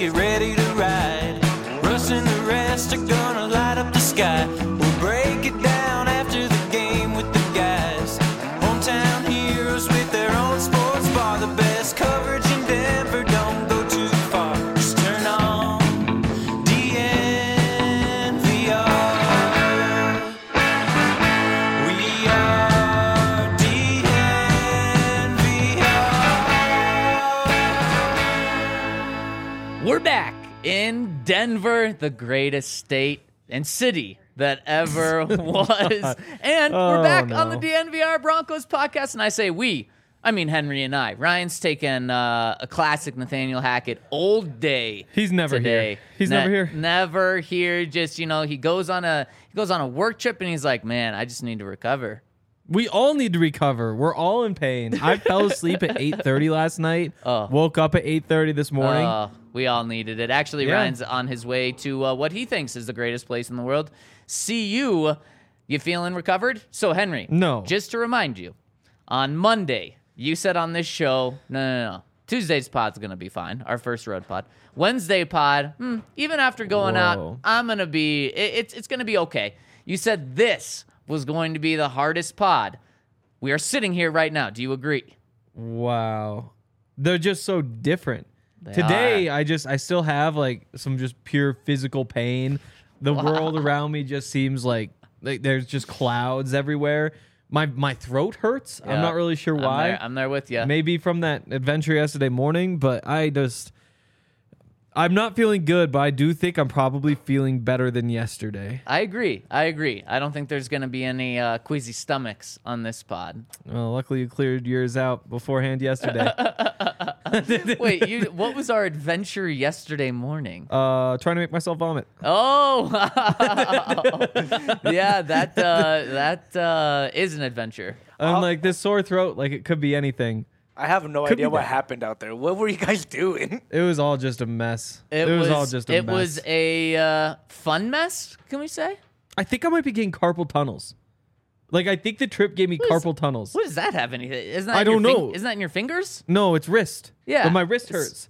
get ready to ride. Russ and the rest are gonna light up the sky. We'll break it down after the game with the guys. Hometown heroes with their own sports bar. The best coverage in Denver, don't go too far. Just turn on DNVR. We are DNVR. We're back in Denver, the greatest state and city that ever was. And we're back on the DNVR Broncos podcast. And I say we, I mean Henry and I. Ryan's taking a classic Nathaniel Hackett old day. He's never today. here. He's never here. Never here. Just, he goes on a work trip and he's like, man, I just need to recover. We all need to recover. We're all in pain. I fell asleep at 8:30 last night. Woke up at 8:30 this morning. We all needed it. Actually, Yeah. Ryan's on his way to what he thinks is the greatest place in the world. CU. You feeling recovered? So, Henry. No. Just to remind you, on Monday, you said on this show, no. Tuesday's pod's going to be fine, our first road pod. Wednesday pod, even after going out, I'm going to be, it's going to be okay. You said this was going to be the hardest pod. We are sitting here right now. Do you agree? Wow. They're just so different. They Today, I still have like some just pure physical pain. The world around me just seems like there's just clouds everywhere. My throat hurts. Yeah. I'm not really sure why. I'm there with you. Maybe from that adventure yesterday morning, but I'm not feeling good, but I do think I'm probably feeling better than yesterday. I agree. I don't think there's going to be any queasy stomachs on this pod. Well, luckily you cleared yours out beforehand yesterday. Wait, what was our adventure yesterday morning? Trying to make myself vomit. Oh, yeah, that is an adventure. I'm like, this sore throat, like it could be anything. I have no Could idea be what that. happened out there. What were you guys doing? It was all just a mess. It was all just a mess. It was a fun mess, can we say? I think I might be getting carpal tunnels. Like, I think the trip gave me carpal tunnels. What does that have anything? Isn't that I in your don't know. Isn't that in your fingers? No, it's wrist. Yeah. But my wrist hurts.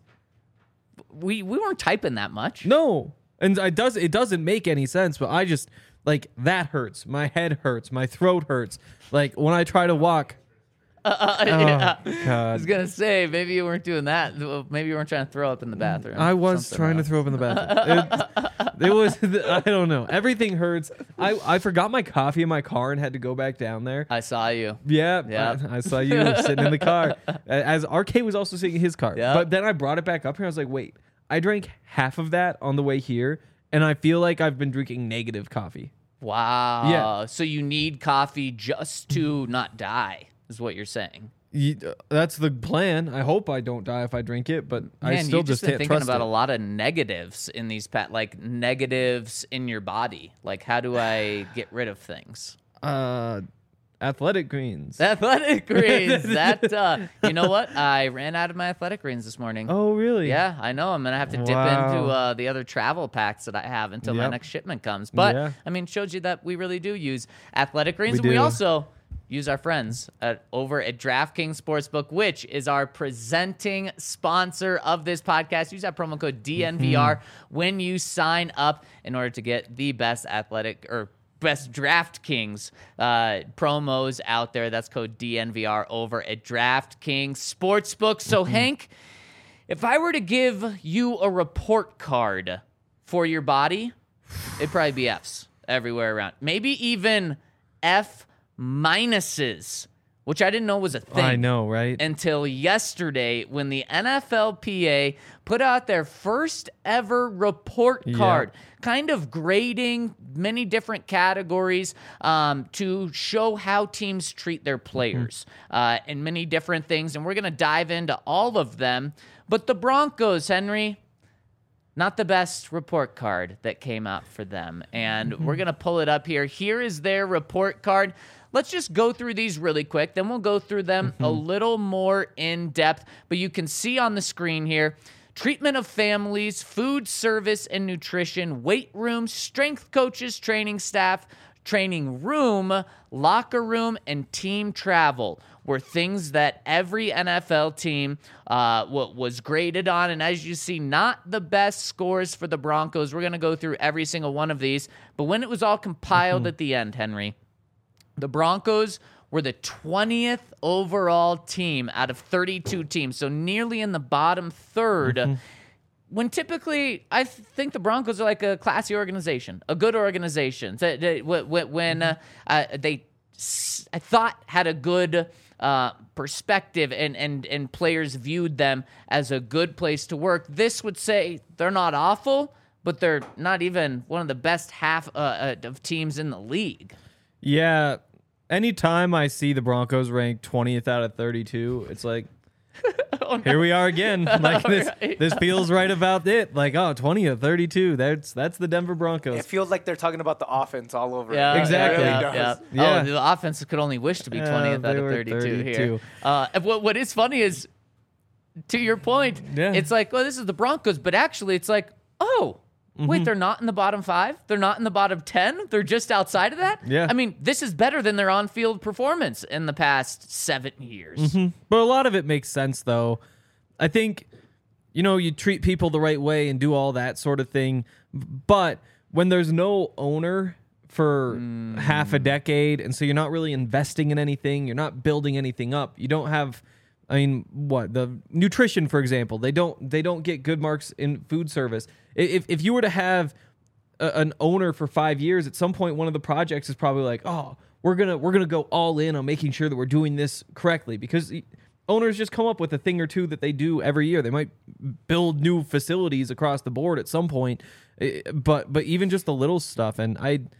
We weren't typing that much. No. And it doesn't make any sense, but I just, like, that hurts. My head hurts. My throat hurts. Like, when I try to walk. Yeah. I God. was gonna say maybe you weren't doing that. Maybe you weren't trying to throw up in the bathroom. I was Something trying to else. throw up in the bathroom. It was, I don't know. Everything hurts. I forgot my coffee in my car and had to go back down there. I saw you. Yeah, Yep. I saw you sitting in the car. As RK was also sitting in his car. Yep. But then I brought it back up here. I was like, wait, I drank half of that on the way here, and I feel like I've been drinking negative coffee. Wow. Yeah. So you need coffee just to not die, is what you're saying. That's the plan. I hope I don't die if I drink it, but I Man, still you've just been can't thinking trust about it. a lot of negatives in these like negatives in your body. Like, how do I get rid of things? Athletic greens. Athletic greens. You know what? I ran out of my athletic greens this morning. Oh, really? Yeah, I know. I'm going to have to dip Wow. into the other travel packs that I have until my Yep. next shipment comes. But, Yeah. I mean, shows you that we really do use athletic greens. We and we do. also use our friends over at DraftKings Sportsbook, which is our presenting sponsor of this podcast. Use that promo code DNVR when you sign up in order to get the best best DraftKings promos out there. That's code DNVR over at DraftKings Sportsbook. So, Hank, if I were to give you a report card for your body, it'd probably be Fs everywhere around. Maybe even F minuses, which I didn't know was a thing. I know, right? Until yesterday when the NFLPA put out their first ever report card, kind of grading many different categories to show how teams treat their players and many different things. And we're going to dive into all of them. But the Broncos, Henry, not the best report card that came out for them. And we're going to pull it up here. Here is their report card. Let's just go through these really quick. Then we'll go through them a little more in depth. But you can see on the screen here, treatment of families, food service and nutrition, weight room, strength coaches, training staff, training room, locker room, and team travel. were things that every NFL team was graded on. And as you see, not the best scores for the Broncos. We're going to go through every single one of these. But when it was all compiled at the end, Henry, the Broncos were the 20th overall team out of 32 teams, so nearly in the bottom third. When typically, I think the Broncos are like a classy organization, a good organization. When I thought had a good perspective and players viewed them as a good place to work, this would say they're not awful, but they're not even one of the best half of teams in the league. Yeah. Anytime I see the Broncos ranked 20th out of 32, it's like, oh, no. Here we are again. Like this feels right about it. Like, 20 of 32. That's the Denver Broncos. It feels like they're talking about the offense all over. Yeah, exactly. Yeah. Oh, the offense could only wish to be 20th out of 32 here. What is funny is, to your point, it's like, well, this is the Broncos, but actually it's like, wait, they're not in the bottom 5? They're not in the bottom 10? They're just outside of that? Yeah. I mean, this is better than their on-field performance in the past 7 years. But a lot of it makes sense, though. I think, you treat people the right way and do all that sort of thing. But when there's no owner for half a decade, and so you're not really investing in anything, you're not building anything up, you don't have... I mean, the nutrition, for example, they don't get good marks in food service. If you were to have an owner for 5 years, at some point one of the projects is probably like, we're gonna go all in on making sure that we're doing this correctly, because owners just come up with a thing or two that they do every year. They might build new facilities across the board at some point, but even just the little stuff. And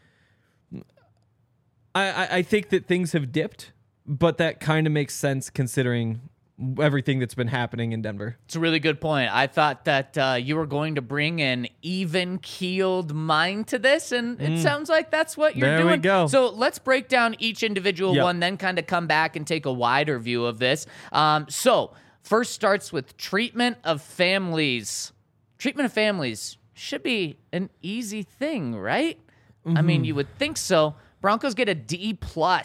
I think that things have dipped, but that kind of makes sense considering everything that's been happening in Denver. It's a really good point. I thought that you were going to bring an even-keeled mind to this, and it sounds like that's what you're doing. There we go. So let's break down each individual one, then kind of come back and take a wider view of this. So first starts with treatment of families. Treatment of families should be an easy thing, right? I mean, you would think so. Broncos get a D+.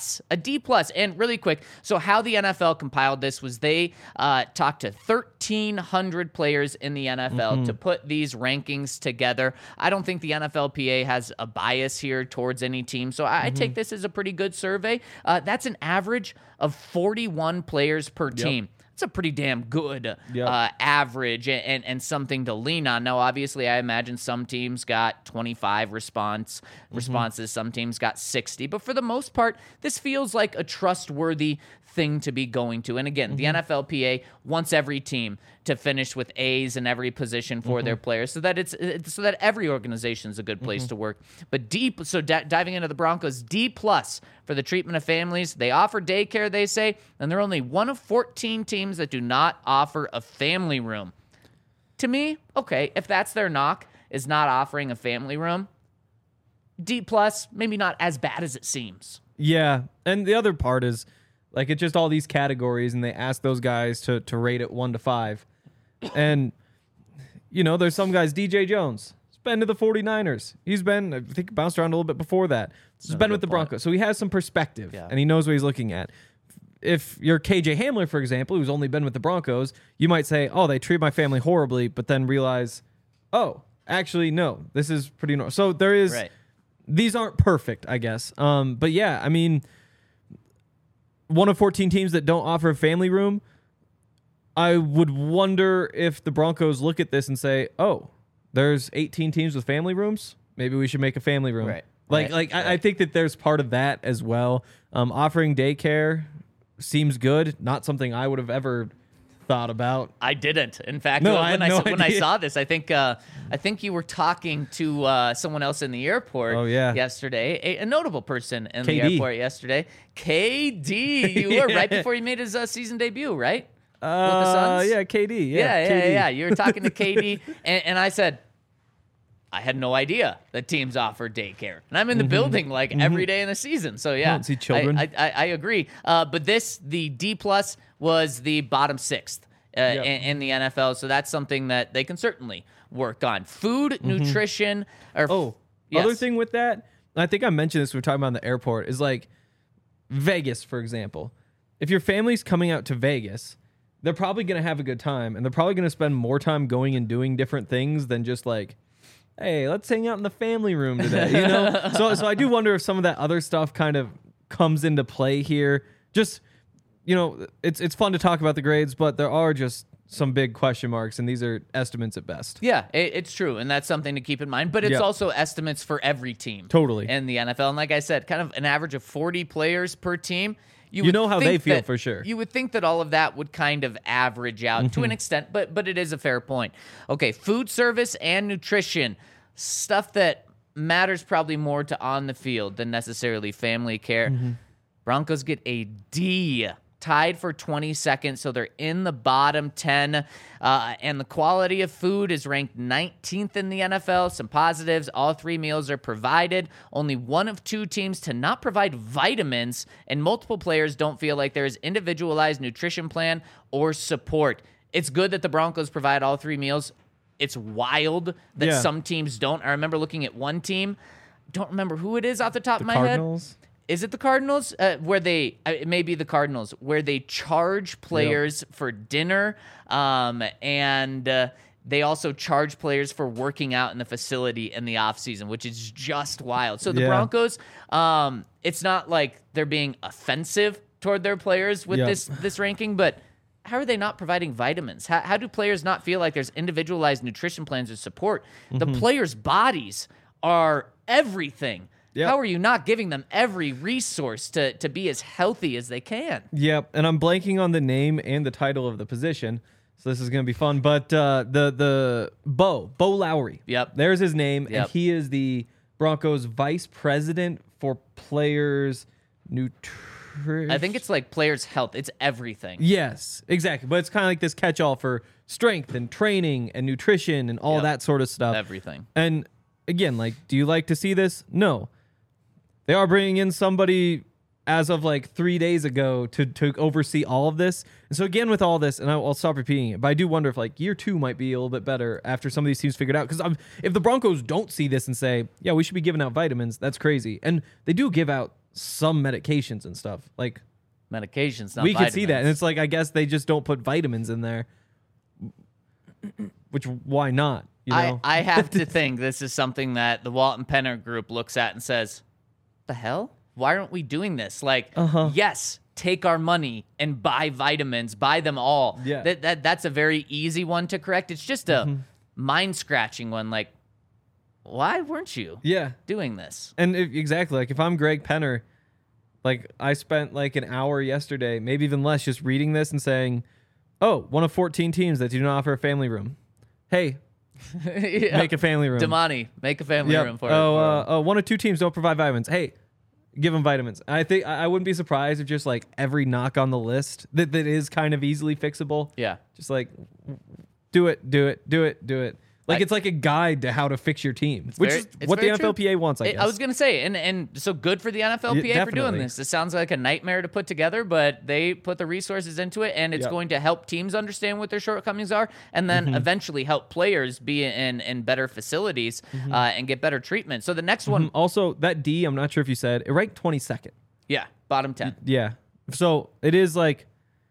And really quick, so how the NFL compiled this was they talked to 1,300 players in the NFL to put these rankings together. I don't think the NFLPA has a bias here towards any team, so I take this as a pretty good survey. That's an average of 41 players per team. It's a pretty damn good average and something to lean on. Now, obviously, I imagine some teams got 25 responses. Some teams got 60. But for the most part, this feels like a trustworthy thing to be going to. And again, the NFLPA wants every team to finish with A's in every position for their players, so that so that every organization is a good place to work. But diving into the Broncos, D+ for the treatment of families. They offer daycare, they say, and they're only one of 14 teams that do not offer a family room. To me, okay, if that's their knock, is not offering a family room, D+, maybe not as bad as it seems. Yeah, and the other part is, like, it's just all these categories, and they ask those guys to rate it 1 to 5. And, there's some guys, DJ Jones, he's been to the 49ers. He's been, I think, bounced around a little bit before that. He's been with the Broncos. So he has some perspective, and he knows what he's looking at. If you're KJ Hamler, for example, who's only been with the Broncos, you might say, they treat my family horribly, but then realize, actually, no, this is pretty normal. So there is, these aren't perfect, I guess. But yeah, I mean, one of 14 teams that don't offer a family room, I would wonder if the Broncos look at this and say, there's 18 teams with family rooms. Maybe we should make a family room. I think that there's part of that as well. Offering daycare seems good. Not something I would have ever thought about. I didn't. In fact, when I saw this, I think you were talking to someone else in the airport yesterday, a notable person in the airport yesterday. KD, you were right before he made his season debut, right? With the Suns? Yeah, KD. Yeah. You were talking to KD, and I said, I had no idea that teams offer daycare. And I'm in the building like every day in the season. So yeah, I don't see children. I agree. But the D+ was the bottom 6th in the NFL. So that's something that they can certainly work on. Food, nutrition. Other thing with that, I think I mentioned this when we were talking about in the airport, is like Vegas, for example. if your family's coming out to Vegas, they're probably going to have a good time, and they're probably going to spend more time going and doing different things than just like, hey, let's hang out in the family room today, you know? So I do wonder if some of that other stuff kind of comes into play here. Just, you know, it's fun to talk about the grades, but there are just some big question marks, and these are estimates at best. Yeah, it's true, and that's something to keep in mind. But it's Yeah. also estimates for every team. Totally. In the NFL. And like I said, kind of an average of 40 players per team. You would know how think they feel that- for sure. You would think that all of that would kind of average out to an extent, but it is a fair point. Okay, food service and nutrition, stuff that matters probably more to on the field than necessarily family care. Broncos get a D, tied for 22nd, so they're in the bottom 10. And the quality of food is ranked 19th in the NFL. Some positives, all 3 meals are provided. Only one of 2 teams to not provide vitamins, and multiple players don't feel like there is individualized nutrition plan or support. It's good that the Broncos provide all 3 meals. It's wild that Yeah. some teams don't. I remember looking at one team, don't remember who it is off the top of my Cardinals? head. Is it the Cardinals? Where they, it may be the Cardinals, where they charge players for dinner, and they also charge players for working out in the facility in the offseason, which is just wild. So the Yeah. Broncos, it's not like they're being offensive toward their players with Yep. this ranking, but how are they not providing vitamins? How do players not feel like there's individualized nutrition plans or support? The players' bodies are everything. Yep. How are you not giving them every resource to be as healthy as they can? Yep, and I'm blanking on the name and the title of the position, so this is going to be fun. But the Bo Lowry. Yep. There's his name, Yep. and he is the Broncos vice president for players nutrition. I think it's like players' health. It's everything. Yes, exactly. But it's kind of like this catch-all for strength and training and nutrition and all Yep. that sort of stuff. Everything. And again, like, do you like to see this? No. They are bringing in somebody as of like 3 days ago to oversee all of this. And so again, with all this, and I'll stop repeating it, but I do wonder if like year 2 might be a little bit better after some of these teams figured out. Because if the Broncos don't see this and say, yeah, we should be giving out vitamins, that's crazy. And they do give out some medications and stuff. Like, Medications, not we vitamins. could see that. And it's like, I guess they just don't put vitamins in there. Which, why not? You know? I have to think this is something that the Walton Penner group looks at and says, the hell? Why aren't we doing this? Like, yes, take our money and buy vitamins, buy them all. Yeah. That's a very easy one to correct. It's just a mind-scratching one. Like, why weren't you Yeah. doing this? And exactly, like if I'm Greg Penner, like I spent like an hour yesterday, maybe even less, just reading this and saying, oh, one of 14 teams that do not offer a family room. Hey, Yeah. make a family room. Damani, make a family Yep. room for Oh, 1 or 2 teams don't provide vitamins. Hey, give them vitamins. I think I wouldn't be surprised if just like every knock on the list that is kind of easily fixable. Yeah. Just like do it. Like it's like a guide to how to fix your team, which is what the NFLPA wants, I guess. I was going to say, and so good for the NFLPA for doing definitely. this. It sounds like a nightmare to put together, but they put the resources into it, and it's Yep. going to help teams understand what their shortcomings are, and then eventually help players be in better facilities and get better treatment. So the next one, Also, that D, I'm not sure if you said, it ranked 22nd. yeah, bottom 10. Yeah. So it is like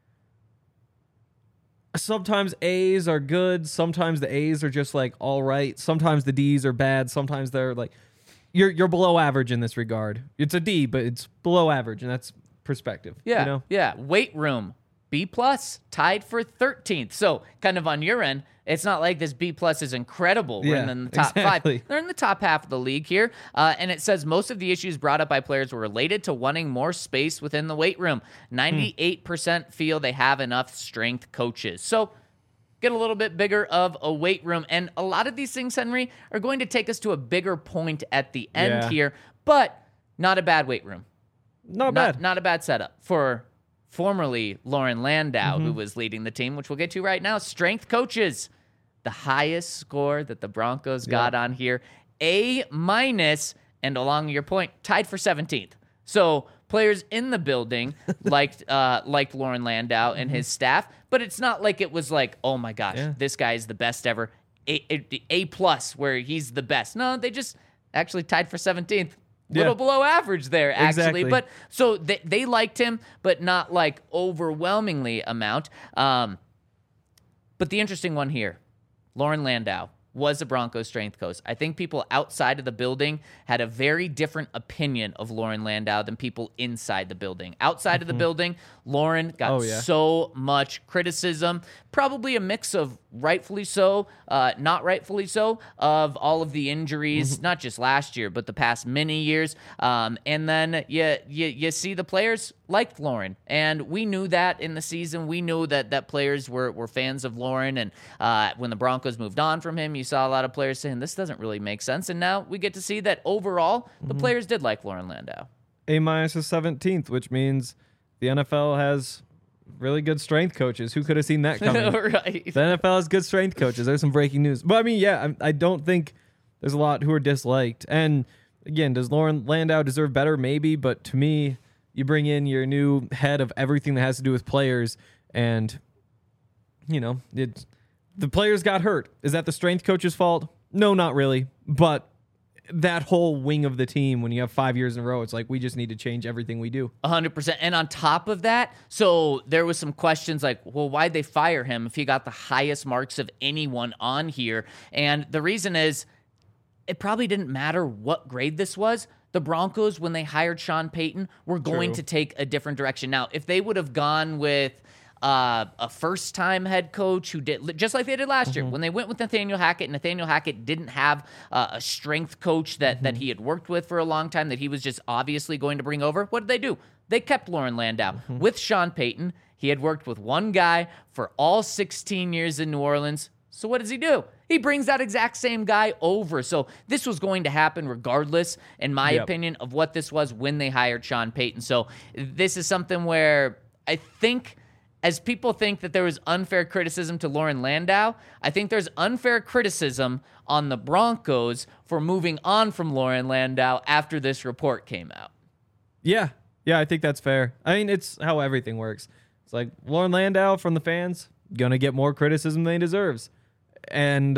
sometimes A's are good, sometimes the A's are just like all right, sometimes the D's are bad, sometimes they're like you're below average in this regard. It's a D, but it's below average, and that's perspective. Yeah, You know? yeah. Weight room, B+, tied for 13th. So kind of on your end, it's not like this B+ is incredible. We're Yeah, in the top exactly. 5. They're in the top half of the league here. And it says most of the issues brought up by players were related to wanting more space within the weight room. 98% feel they have enough strength coaches. So get a little bit bigger of a weight room. And a lot of these things, Henry, are going to take us to a bigger point at the end Yeah. here. But not a bad weight room. Not bad. Not a bad setup for formerly Lauren Landau, who was leading the team, which we'll get to right now. Strength coaches, the highest score that the Broncos got on here, A-, and along your point, tied for 17th. So players in the building liked Lauren Landau and his staff, but it's not like it was like, oh my gosh, Yeah. this guy is the best ever. A+ where he's the best. No, they just actually tied for 17th. little below average there, actually. Exactly. But so they liked him, but not like overwhelmingly amount. But the interesting one here, Lauren Landau was the Broncos strength coach. I think people outside of the building had a very different opinion of Lauren Landau than people inside the building. Outside of the building, Lauren got so much criticism, probably a mix of rightfully so, not rightfully so, of all of the injuries, not just last year, but the past many years. And then you see the players liked Lauren. And we knew that in the season. We knew that players were fans of Lauren. And when the Broncos moved on from him, you saw a lot of players saying, this doesn't really make sense. And now we get to see that overall, the players did like Lauren Landau. A- is 17th, which means the NFL has really good strength coaches. Who could have seen that coming? Right. The NFL has good strength coaches. There's some breaking news. But I mean, yeah, I don't think there's a lot who are disliked. And again, does Lauren Landau deserve better? Maybe. But to me, you bring in your new head of everything that has to do with players, and, you know, the players got hurt. Is that the strength coach's fault? No, not really. But that whole wing of the team, when you have 5 years in a row, it's like, we just need to change everything we do. 100%. And on top of that, so there was some questions like, well, why'd they fire him if he got the highest marks of anyone on here? And the reason is, it probably didn't matter what grade this was. The Broncos, when they hired Sean Payton, were going to take a different direction. Now, if they would have gone with a first-time head coach who did, just like they did last year, when they went with Nathaniel Hackett didn't have a strength coach that he had worked with for a long time, that he was just obviously going to bring over. What did they do? They kept Lauren Landau. With Sean Payton, he had worked with one guy for all 16 years in New Orleans. So what does he do? He brings that exact same guy over. So this was going to happen regardless, in my opinion, of what this was when they hired Sean Payton. So this is something where I think, as people think that there was unfair criticism to Lauren Landau, I think there's unfair criticism on the Broncos for moving on from Lauren Landau after this report came out. Yeah, I think that's fair. I mean, it's how everything works. It's like Lauren Landau from the fans, gonna get more criticism than he deserves. And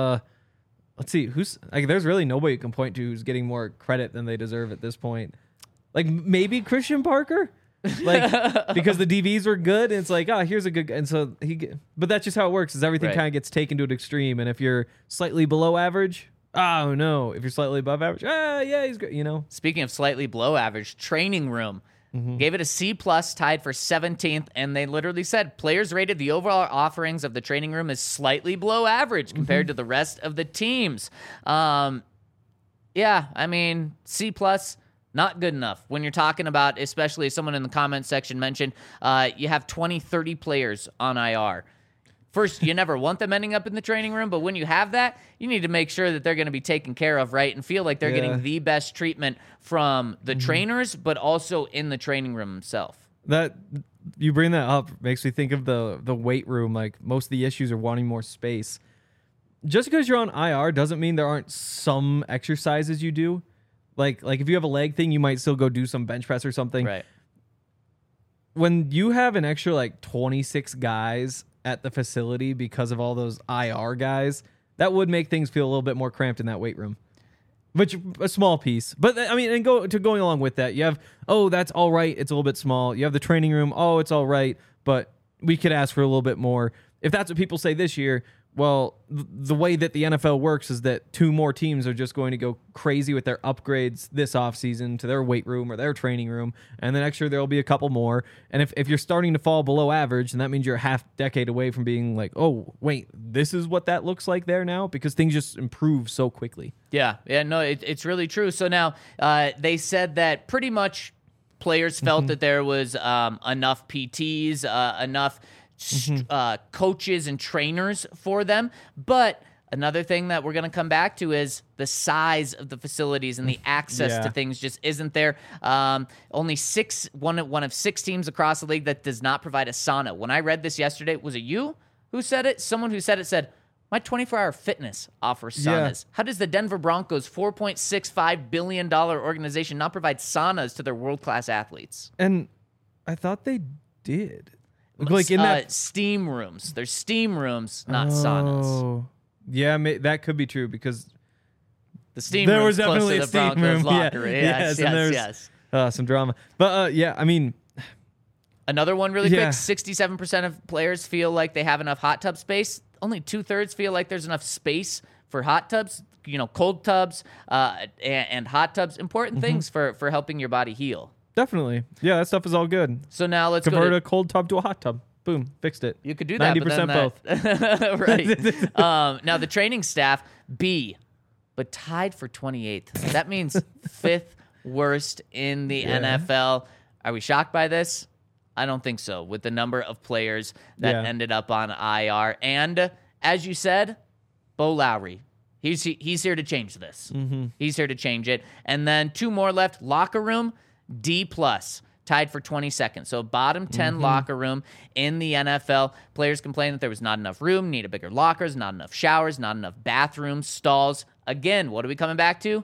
let's see, there's really nobody you can point to who's getting more credit than they deserve at this point. Like, maybe Christian Parker? Like, because the DVs were good, and it's like, here's a good guy. And so but that's just how it works, is everything kind of gets taken to an extreme. And if you're slightly below average, oh no. If you're slightly above average, yeah, he's good, you know? Speaking of slightly below average, training room. Gave it a C+, tied for 17th, and they literally said players rated the overall offerings of the training room as slightly below average compared to the rest of the teams. Yeah, I mean, C+, not good enough. When you're talking about, especially someone in the comments section mentioned, you have 20, 30 players on IR. First, you never want them ending up in the training room, but when you have that, you need to make sure that they're going to be taken care of, right, and feel like they're getting the best treatment from the trainers, but also in the training room itself. That you bring that up makes me think of the weight room. Like, most of the issues are wanting more space. Just because you're on IR doesn't mean there aren't some exercises you do. Like if you have a leg thing, you might still go do some bench press or something. Right. When you have an extra 26 guys at the facility because of all those IR guys, that would make things feel a little bit more cramped in that weight room. Which, a small piece. But, I mean, and going along with that, you have, that's all right, it's a little bit small. You have the training room, it's all right, but we could ask for a little bit more. If that's what people say this year, well, the way that the NFL works is that 2 more teams are just going to go crazy with their upgrades this offseason to their weight room or their training room, and the next year there will be a couple more. And if you're starting to fall below average, then that means you're a half decade away from being like, oh, wait, this is what that looks like there now? Because things just improve so quickly. Yeah, no, it's really true. So now they said that pretty much players felt that there was enough PTs, enough coaches and trainers for them. But another thing that we're going to come back to is the size of the facilities and the access to things just isn't there. Only one of 6 teams across the league that does not provide a sauna. When I read this yesterday, was it you who said it? Someone who said it said, my 24-hour fitness offers saunas. How does the Denver Broncos, $4.65 billion organization, not provide saunas to their world-class athletes? And I thought they did. Like in that steam rooms. There's steam rooms, not saunas. Yeah, that could be true, because The steam There room's was close definitely to a the steam Broncos room. locker room. Yes, and there's some drama. But yeah, I mean, Another one really Yeah. quick. 67% of players feel like they have enough hot tub space. Only 2/3 feel like there's enough space for hot tubs. Cold tubs and hot tubs. Important things for helping your body heal. definitely. Yeah, that stuff is all good. So now let's Convert go a cold tub to a hot tub. Boom, fixed it. You could do that. 90% both. Right. Now the training staff, B, but tied for 28th. That means 5th worst in the NFL. Are we shocked by this? I don't think so, with the number of players that ended up on IR. And as you said, Bo Lowry. He's here to change this. He's here to change it. And then 2 more left. Locker room, D+, tied for 22nd. So bottom 10 locker room in the NFL. Players complained that there was not enough room, needed bigger lockers, not enough showers, not enough bathrooms, stalls. Again, what are we coming back to?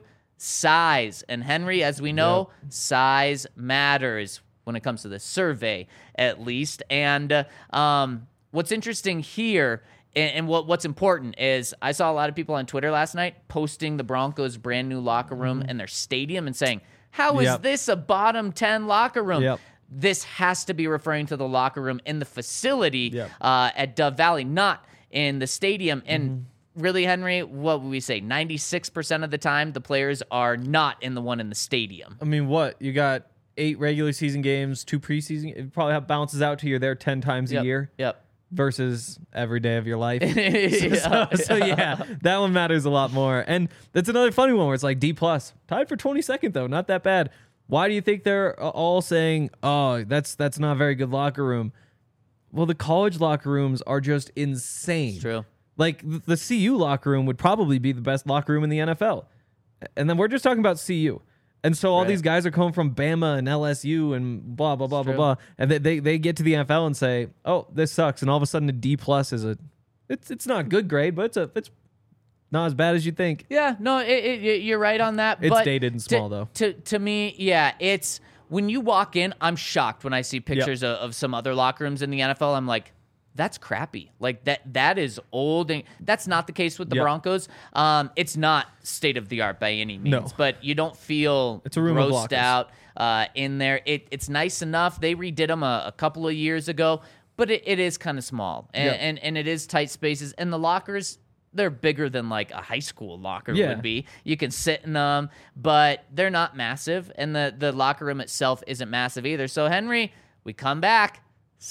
Size. And Henry, as we know, size matters when it comes to the survey, at least. And what's interesting here, and what's important is I saw a lot of people on Twitter last night posting the Broncos' brand new locker room in their stadium and saying, how is this a bottom 10 locker room? Yep. This has to be referring to the locker room in the facility Yep. at Dove Valley, not in the stadium. And really, Henry, what would we say? 96% of the time, the players are not in the one in the stadium. I mean, what? You got 8 regular season games, 2 preseason. It probably bounces out to you there 10 times a year. Yep. Versus every day of your life. Yeah. So yeah, that one matters a lot more. And that's another funny one where it's like D+. Tied for 22nd, though. Not that bad. Why do you think they're all saying, oh, that's not a very good locker room? Well, the college locker rooms are just insane. It's true. Like, the CU locker room would probably be the best locker room in the NFL. And then we're just talking about CU. And so all these guys are coming from Bama and LSU and blah, blah, blah, blah, blah. And they get to the NFL and say, oh, this sucks. And all of a sudden a D+ is it's not a good grade, but it's not as bad as you think. Yeah, no, you're right on that. It's but dated and small, though. To me, yeah, it's when you walk in, I'm shocked when I see pictures of some other locker rooms in the NFL. I'm like, that's crappy. Like that is old, and that's not the case with the Broncos. It's not state of the art by any means, but you don't feel it's a room of grossed lockers. out in there. It's nice enough. They redid them a couple of years ago, but it is kind of small, and it is tight spaces, and the lockers, they're bigger than like a high school locker would be. You can sit in them, but they're not massive, and the locker room itself isn't massive either. So Henry, we come back.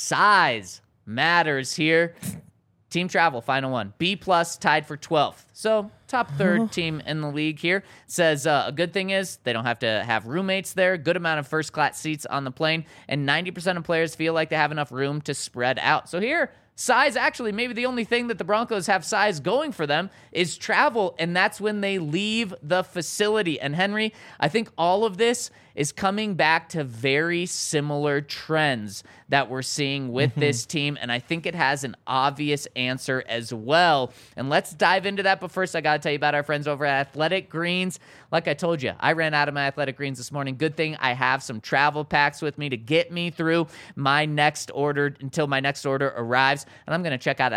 Size matters here. Team travel, final one. B+ tied for 12th. So top third team in the league here. Says a good thing is they don't have to have roommates there. Good amount of first class seats on the plane. And 90% of players feel like they have enough room to spread out. So here, size, actually, maybe the only thing that the Broncos have size going for them is travel, and that's when they leave the facility. And Henry, I think all of this is coming back to very similar trends that we're seeing with this team, and I think it has an obvious answer as well. And let's dive into that, but first I got to tell you about our friends over at Athletic Greens. Like I told you, I ran out of my Athletic Greens this morning. Good thing I have some travel packs with me to get me through my next order until my next order arrives. And I'm going to check out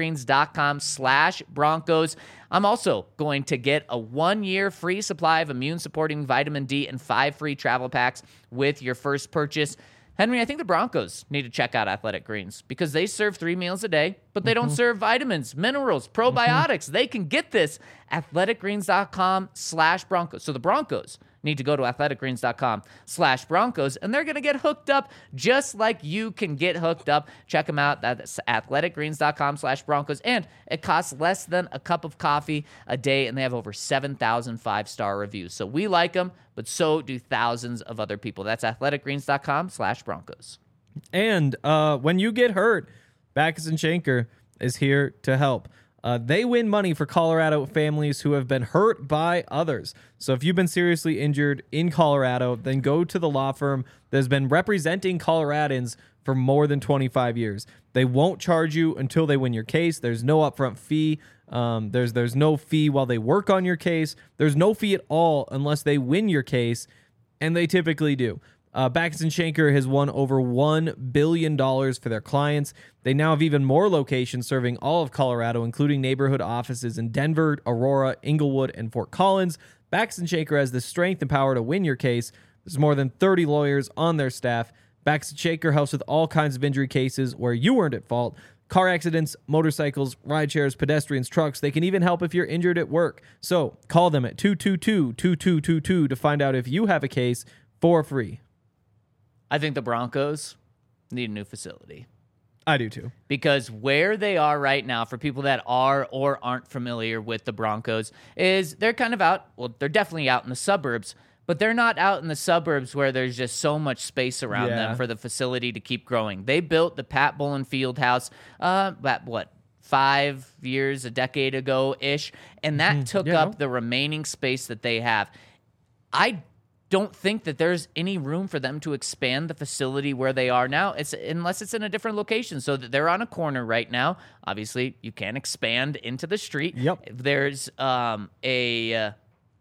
athleticgreens.com/Broncos. I'm also going to get a 1-year free supply of immune-supporting vitamin D and 5 free travel packs with your first purchase. Henry, I think the Broncos need to check out Athletic Greens because they serve 3 meals a day, but they don't serve vitamins, minerals, probiotics. They can get this athleticgreens.com/Broncos. So the Broncos need to go to athleticgreens.com/Broncos, and they're going to get hooked up just like you can get hooked up. Check them out. That's athleticgreens.com/Broncos, and it costs less than a cup of coffee a day, and they have over 7,000 5-star reviews. So we like them, but so do thousands of other people. That's athleticgreens.com/Broncos. And when you get hurt, Backus and Schenker is here to help. They win money for Colorado families who have been hurt by others. So if you've been seriously injured in Colorado, then go to the law firm that has been representing Coloradans for more than 25 years. They won't charge you until they win your case. There's no upfront fee. There's no fee while they work on your case. There's no fee at all unless they win your case, and they typically do. Baxton Shanker has won over $1 billion for their clients. They now have even more locations serving all of Colorado, including neighborhood offices in Denver, Aurora, Inglewood, and Fort Collins. Baxton Shanker has the strength and power to win your case. There's more than 30 lawyers on their staff. Baxton Shanker helps with all kinds of injury cases where you weren't at fault. Car accidents, motorcycles, ride shares, pedestrians, trucks. They can even help if you're injured at work. So call them at 222-2222 to find out if you have a case for free. I think the Broncos need a new facility. I do too. Because where they are right now, for people that are or aren't familiar with the Broncos, is they're kind of out. Well, they're definitely out in the suburbs, but they're not out in the suburbs where there's just so much space around them for the facility to keep growing. They built the Pat Bowlen Fieldhouse, about what, 5 years, a decade ago-ish, and that took up the remaining space that they have. I don't think that there's any room for them to expand the facility where they are now, unless it's in a different location. So that they're on a corner right now. Obviously, you can't expand into the street. Yep. There's a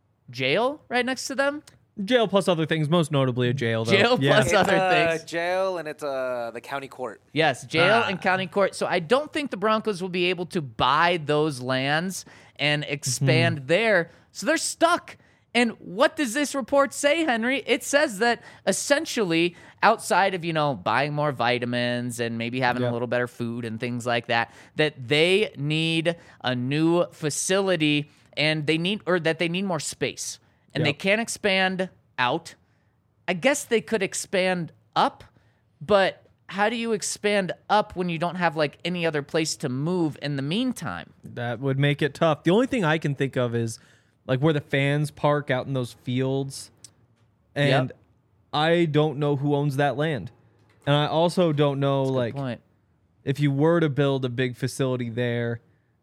jail right next to them. Jail plus other things, most notably a jail, though. Jail plus It's other things. jail, and it's the county court. Yes, jail and county court. So I don't think the Broncos will be able to buy those lands and expand there. So they're stuck. And what does this report say, Henry? It says that essentially, outside of, buying more vitamins and maybe having a little better food and things like that, that they need a new facility and they need more space. And they can't expand out. I guess they could expand up, but how do you expand up when you don't have any other place to move in the meantime? That would make it tough. The only thing I can think of is where the fans park out in those fields. And I don't know who owns that land. And I also don't know Good point. if you were to build a big facility there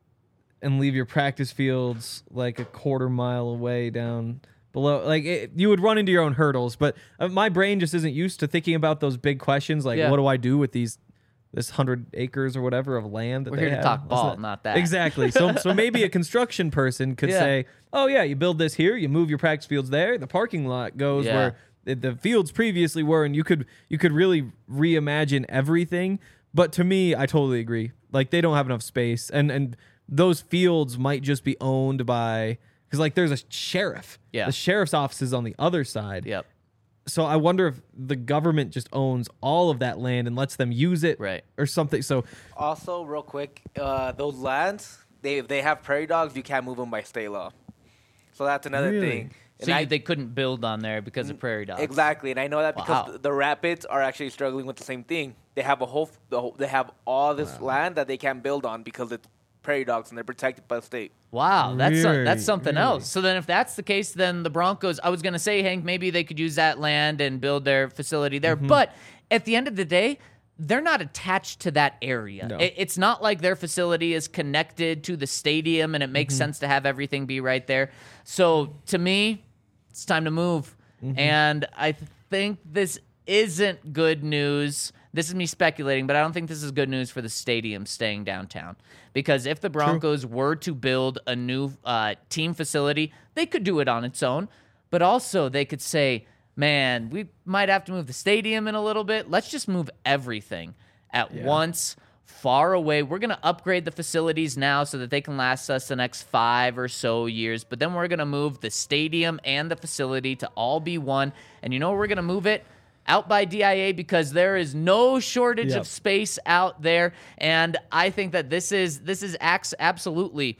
and leave your practice fields a quarter mile away down below, you would run into your own hurdles. But my brain just isn't used to thinking about those big questions. What do I do with this 100 acres or whatever of land that We're they here to have? talk ball, not that. Exactly. So maybe a construction person could say, oh yeah, you build this here, you move your practice fields there, the parking lot goes where the fields previously were, and you could really reimagine everything. But to me, I totally agree. They don't have enough space, and those fields might just be owned by, because there's a sheriff. Yeah. The sheriff's office is on the other side. Yep. So I wonder if the government just owns all of that land and lets them use it, or something. So Also, real quick, those lands, if they have prairie dogs, you can't move them by state law. So that's another thing. So they couldn't build on there because of prairie dogs. Exactly, and I know that because the Rapids are actually struggling with the same thing. They have they have all this land that they can't build on because it's prairie dogs and they're protected by the state. Wow, that's something else. So then if that's the case, then the Broncos, I was going to say, Hank, maybe they could use that land and build their facility there. But at the end of the day, they're not attached to that area. No. It's not like their facility is connected to the stadium and it makes sense to have everything be right there. So to me, it's time to move. And I think this isn't good news. This is me speculating, but I don't think this is good news for the stadium staying downtown. Because if the Broncos were to build a new team facility, they could do it on its own. But also they could say, man, we might have to move the stadium in a little bit. Let's just move everything at once, far away. We're going to upgrade the facilities now so that they can last us the next 5 or so years. But then we're going to move the stadium and the facility to all be one. And you know where we're going to move it? Out by DIA, because there is no shortage of space out there. And I think that this is absolutely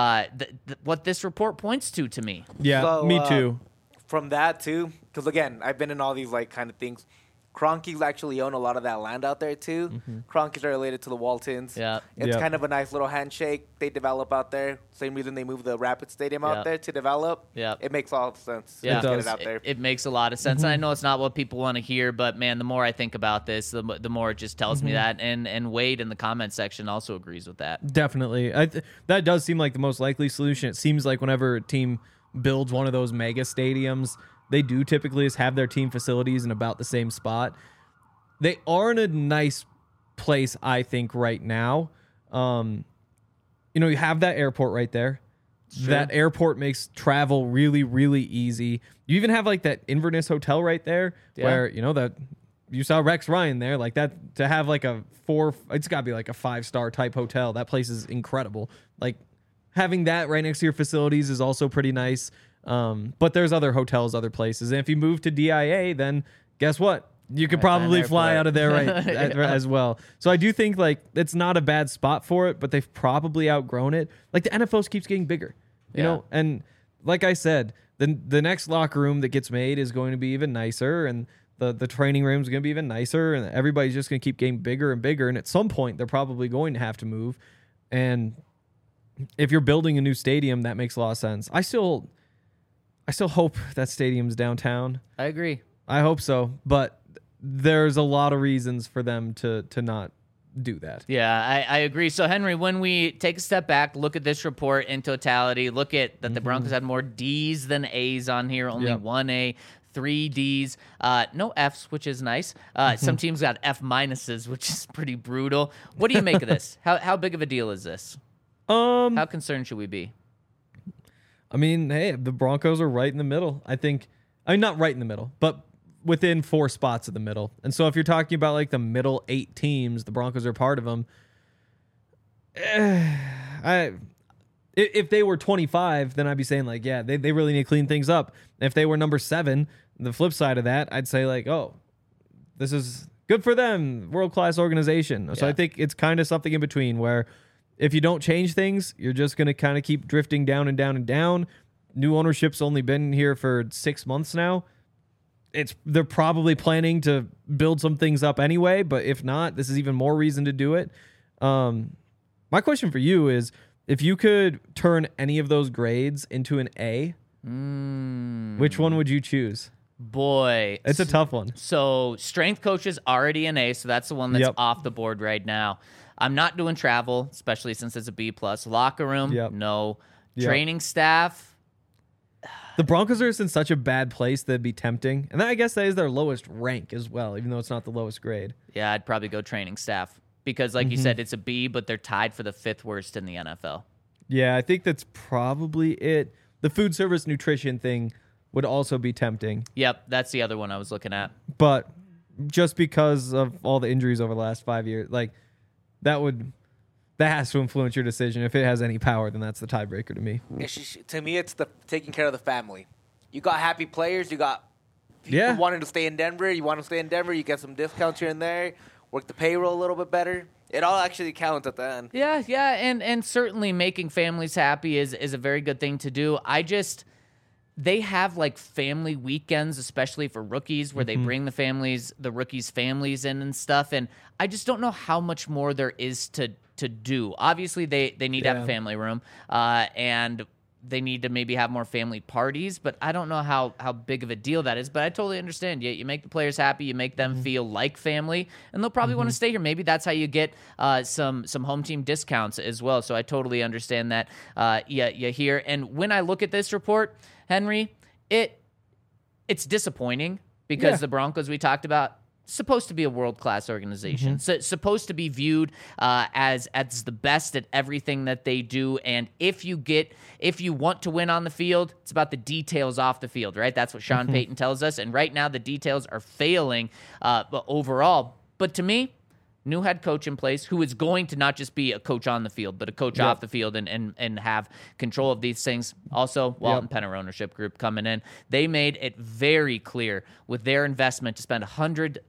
what this report points to me. Yeah, So, me too. From that too, because again, I've been in all these kind of things. Cronkies actually own a lot of that land out there too. Cronkies are related to the Waltons. Yeah. It's kind of a nice little handshake they develop out there. Same reason they moved the Rapid Stadium out there to develop. Yeah. It makes all the sense. Yeah, to get it out there. It makes a lot of sense. And I know it's not what people want to hear, but man, the more I think about this, the more it just tells me that. And Wade in the comment section also agrees with that. Definitely. That does seem like the most likely solution. It seems like whenever a team builds one of those mega stadiums, they do typically just have their team facilities in about the same spot. They are in a nice place, I think, right now. You have that airport right there. That airport makes travel really, really easy. You even have like that Inverness Hotel right there where, that you saw Rex Ryan there, like that, to have like it's got to be like a 5-star type hotel. That place is incredible. Like having that right next to your facilities is also pretty nice. But there's other hotels, other places. And if you move to DIA, then guess what? You could probably fly out of there as well. So I do think like it's not a bad spot for it, but they've probably outgrown it. Like the NFL keeps getting bigger, you know? And like I said, the next locker room that gets made is going to be even nicer, and the training room is going to be even nicer, and everybody's just going to keep getting bigger and bigger. And at some point, they're probably going to have to move. And if you're building a new stadium, that makes a lot of sense. I still hope that stadium's downtown. I agree. I hope so, but there's a lot of reasons for them to not do that. Yeah, I agree. So, Henry, when we take a step back, look at this report in totality, look at that the Broncos had more D's than A's on here, only one A, 3 D's, no F's, which is nice. Some teams got F minuses, which is pretty brutal. What do you make of this? How big of a deal is this? How concerned should we be? I mean, hey, the Broncos are right in the middle. I mean, not right in the middle, but within 4 spots of the middle. And so if you're talking about like the middle 8 teams, the Broncos are part of them. If they were 25, then I'd be saying like, yeah, they really need to clean things up. If they were number 7, the flip side of that, I'd say like, oh, this is good for them, world-class organization. So I think it's kind of something in between where if you don't change things, you're just going to kind of keep drifting down and down and down. New ownership's only been here for 6 months now. They're probably planning to build some things up anyway, but if not, this is even more reason to do it. My question for you is, if you could turn any of those grades into an A, which one would you choose? Boy, it's a tough one. So strength coach is already an A, so that's the one that's off the board right now. I'm not doing travel, especially since it's a B+. Locker room, no. Training staff. The Broncos are just in such a bad place that'd be tempting. And I guess that is their lowest rank as well, even though it's not the lowest grade. Yeah, I'd probably go training staff because, like you said, it's a B, but they're tied for the 5th worst in the NFL. Yeah, I think that's probably it. The food service nutrition thing would also be tempting. Yep, that's the other one I was looking at. But just because of all the injuries over the last 5 years, like that has to influence your decision. If it has any power, then that's the tiebreaker to me. To me, it's the taking care of the family. You got happy players. You got people wanting to stay in Denver. You want to stay in Denver. You get some discounts here and there. Work the payroll a little bit better. It all actually counts at the end. Yeah, and certainly making families happy is a very good thing to do. They have like family weekends, especially for rookies, where they bring the rookies' families in and stuff. And I just don't know how much more there is to do. Obviously, they need to have a family room, and they need to maybe have more family parties, but I don't know how big of a deal that is. But I totally understand. You make the players happy, you make them feel like family, and they'll probably want to stay here. Maybe that's how you get some home team discounts as well. So I totally understand that. You hear. And when I look at this report, Henry, it's disappointing because the Broncos we talked about, supposed to be a world-class organization. So it's supposed to be viewed as the best at everything that they do. And if you want to win on the field, it's about the details off the field, right? That's what Sean Payton tells us. And right now the details are failing overall. But to me, new head coach in place who is going to not just be a coach on the field, but a coach off the field and have control of these things. Also, Walton Penner ownership group coming in. They made it very clear with their investment to spend $100,000,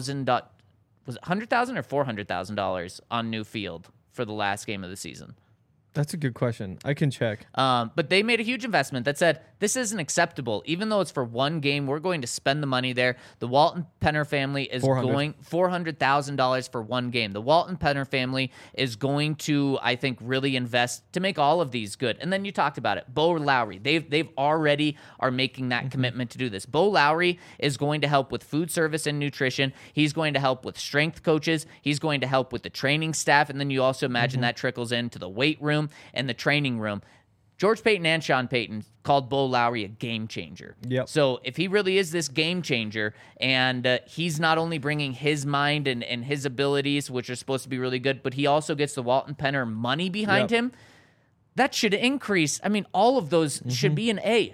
was it $100,000 or $400,000 on new field for the last game of the season. That's a good question. I can check. But they made a huge investment that said, this isn't acceptable. Even though it's for one game, we're going to spend the money there. The Walton Penner family is going $400,000 for one game. The Walton Penner family is going to, I think, really invest to make all of these good. And then you talked about it. Bo Lowry, they've already are making that commitment to do this. Bo Lowry is going to help with food service and nutrition. He's going to help with strength coaches. He's going to help with the training staff. And then you also imagine that trickles into the weight room and the training room. George Payton and Sean Payton called Bo Lowry a game changer. So if he really is this game changer, and he's not only bringing his mind and his abilities, which are supposed to be really good, but he also gets the Walton Penner money behind him, that should increase. I mean, all of those should be an A,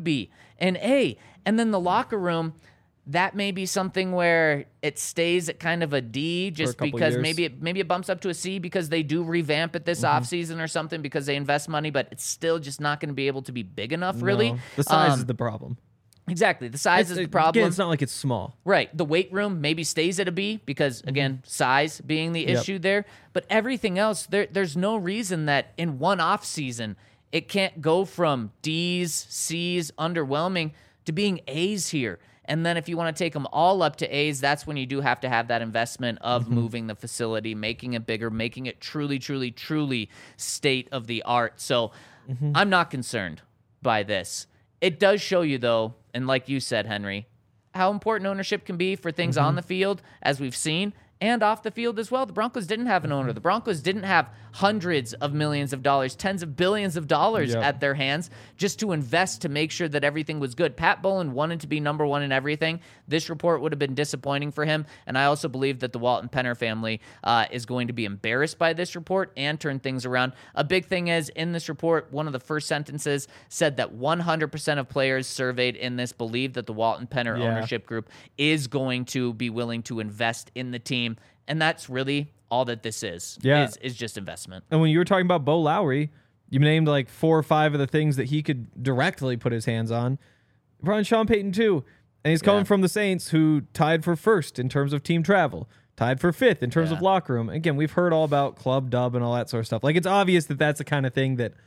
And then the locker room, that may be something where it stays at kind of a D just because years. maybe it bumps up to a C because they do revamp it this offseason or something because they invest money, but it's still just not going to be able to be big enough, really. No, the size is the problem. Exactly. The size is the problem. Again, it's not like it's small. Right. The weight room maybe stays at a B because, again, size being the issue there. But everything else, there's no reason that in one off season it can't go from D's, C's, underwhelming to being A's here. And then if you want to take them all up to A's, that's when you do have to have that investment of moving the facility, making it bigger, making it truly, truly, truly state of the art. So I'm not concerned by this. It does show you, though, and like you said, Henry, how important ownership can be for things on the field, as we've seen, and off the field as well. The Broncos didn't have an owner. The Broncos didn't have hundreds of millions of dollars, tens of billions of dollars at their hands just to invest to make sure that everything was good. Pat Bowlen wanted to be number one in everything. This report would have been disappointing for him, and I also believe that the Walton Penner family is going to be embarrassed by this report and turn things around. A big thing is, in this report, one of the first sentences said that 100% of players surveyed in this believe that the Walton Penner ownership group is going to be willing to invest in the team. And that's really all that this is just investment. And when you were talking about Bo Lowry, you named like 4 or 5 of the things that he could directly put his hands on. Brian Sean Payton too. And he's coming from the Saints, who tied for first in terms of team travel, tied for 5th in terms of locker room. Again, we've heard all about club dub and all that sort of stuff. Like, it's obvious that that's the kind of thing that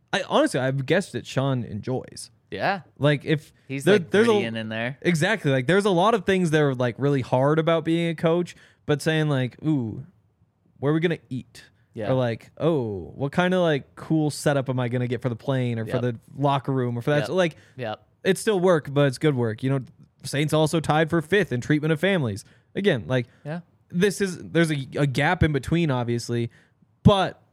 I've guessed that Sean enjoys. Yeah. Like, if he's like gritty in there. Exactly. Like, there's a lot of things that are like really hard about being a coach, but saying like, ooh, where are we going to eat? Yeah. Or like, oh, what kind of like cool setup am I going to get for the plane or for the locker room or for that? So, like, it's still work, but it's good work. You know, Saints also tied for 5th in treatment of families. Again, like, there's a gap in between, obviously, but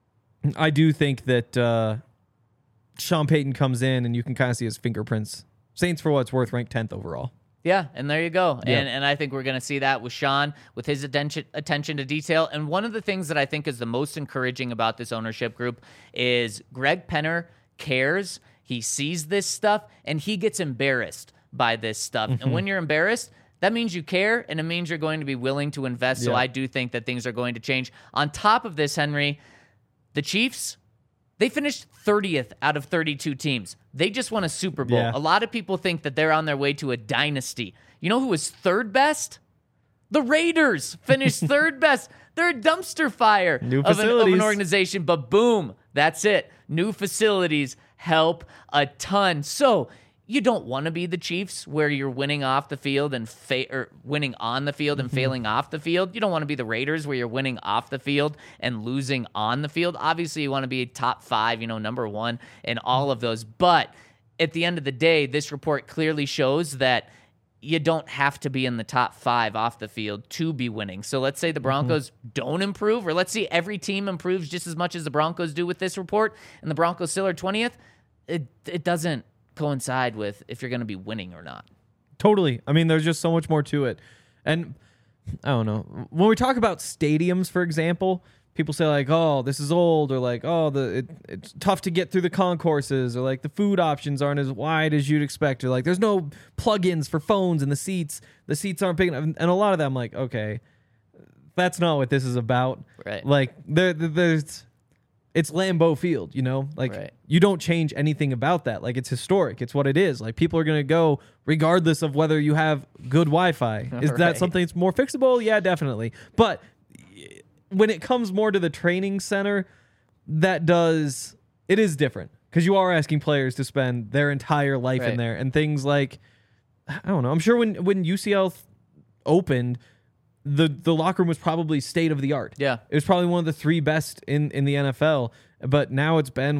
I do think that Sean Payton comes in and you can kind of see his fingerprints. Saints, for what it's worth, ranked 10th overall. Yeah, and there you go. Yeah. And I think we're going to see that with Sean, with his attention to detail. And one of the things that I think is the most encouraging about this ownership group is Greg Penner cares. He sees this stuff, and he gets embarrassed by this stuff. And when you're embarrassed, that means you care, and it means you're going to be willing to invest. So I do think that things are going to change. On top of this, Henry, the Chiefs, they finished 30th out of 32 teams. They just won a Super Bowl. Yeah. A lot of people think that they're on their way to a dynasty. You know who was third best? The Raiders finished third best. They're a dumpster fire of an organization, but boom, that's it. New facilities help a ton. So you don't want to be the Chiefs where you're winning off the field and winning on the field and failing off the field. You don't want to be the Raiders where you're winning off the field and losing on the field. Obviously, you want to be top 5, number 1 in all of those. But at the end of the day, this report clearly shows that you don't have to be in the top 5 off the field to be winning. So let's say the Broncos don't improve, or let's see every team improves just as much as the Broncos do with this report, and the Broncos still are 20th. It doesn't coincide with if you're going to be winning or not. Totally. I mean, there's just so much more to it. And I don't know. When we talk about stadiums, for example, people say like, oh, this is old, or like, oh, it's tough to get through the concourses, or like the food options aren't as wide as you'd expect, or like there's no plugins for phones in the seats aren't big enough. And a lot of that I'm like, okay, that's not what this is about. Right. Like it's Lambeau Field, like you don't change anything about that. Like, it's historic. It's what it is. Like, people are going to go regardless of whether you have good Wi-Fi. Is that something that's more fixable? Yeah, definitely. But when it comes more to the training center, it is different, because you are asking players to spend their entire life in there, and things like, I don't know. I'm sure when UCL opened, the locker room was probably state of the art. Yeah. It was probably one of the 3 best in the NFL, but now it's been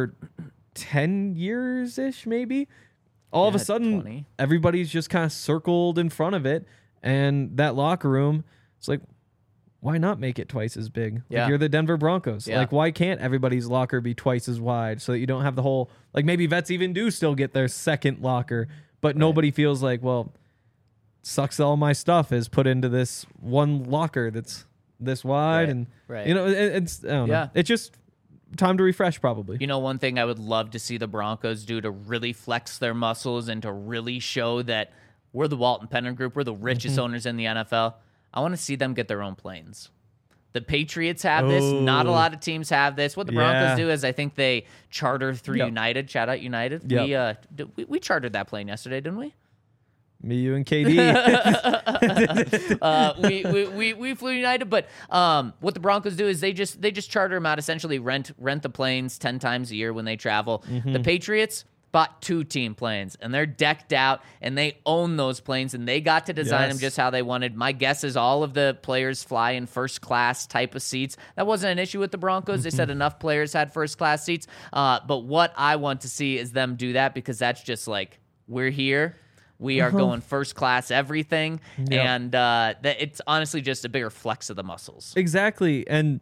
10 years-ish maybe. All of a sudden, 20. Everybody's just kind of circled in front of it, and that locker room, it's like, why not make it twice as big? Yeah. Like, you're the Denver Broncos. Yeah. Like, why can't everybody's locker be twice as wide so that you don't have the whole, like, maybe vets even do still get their second locker, but nobody feels like, well, sucks all my stuff is put into this one locker that's this wide, and it's I don't know. It just time to refresh probably. You know, one thing I would love to see the Broncos do to really flex their muscles and to really show that we're the Walton Penner Group, we're the richest owners in the NFL. I want to see them get their own planes. The Patriots have this. Not a lot of teams have this. What the Broncos do is I think they charter through United. Shout out United. Yep. We chartered that plane yesterday, didn't we? Me, you, and KD. We flew United, but what the Broncos do is they just charter them out, essentially rent the planes 10 times a year when they travel. The Patriots bought 2 team planes, and they're decked out, and they own those planes, and they got to design them just how they wanted. My guess is all of the players fly in first class type of seats. That wasn't an issue with the Broncos. They said enough players had first class seats. But what I want to see is them do that, because that's just like, we're here. We are going first class everything, and it's honestly just a bigger flex of the muscles. Exactly, and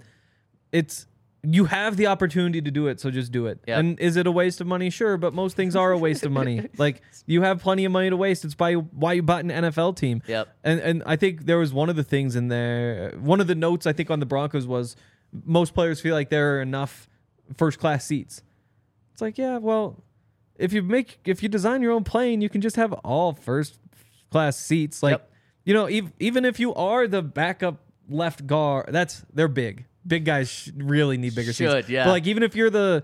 you have the opportunity to do it, so just do it. Yep. And is it a waste of money? Sure, but most things are a waste of money. Like, you have plenty of money to waste. It's why you bought an NFL team. Yep. And I think there was one of the things in there, one of the notes I think on the Broncos was most players feel like there are enough first class seats. It's like, yeah, well, if you design your own plane, you can just have all first class seats. Like, you know, even if you are the backup left guard, they're big. Big guys really need bigger seats. Yeah. But like, even if you're the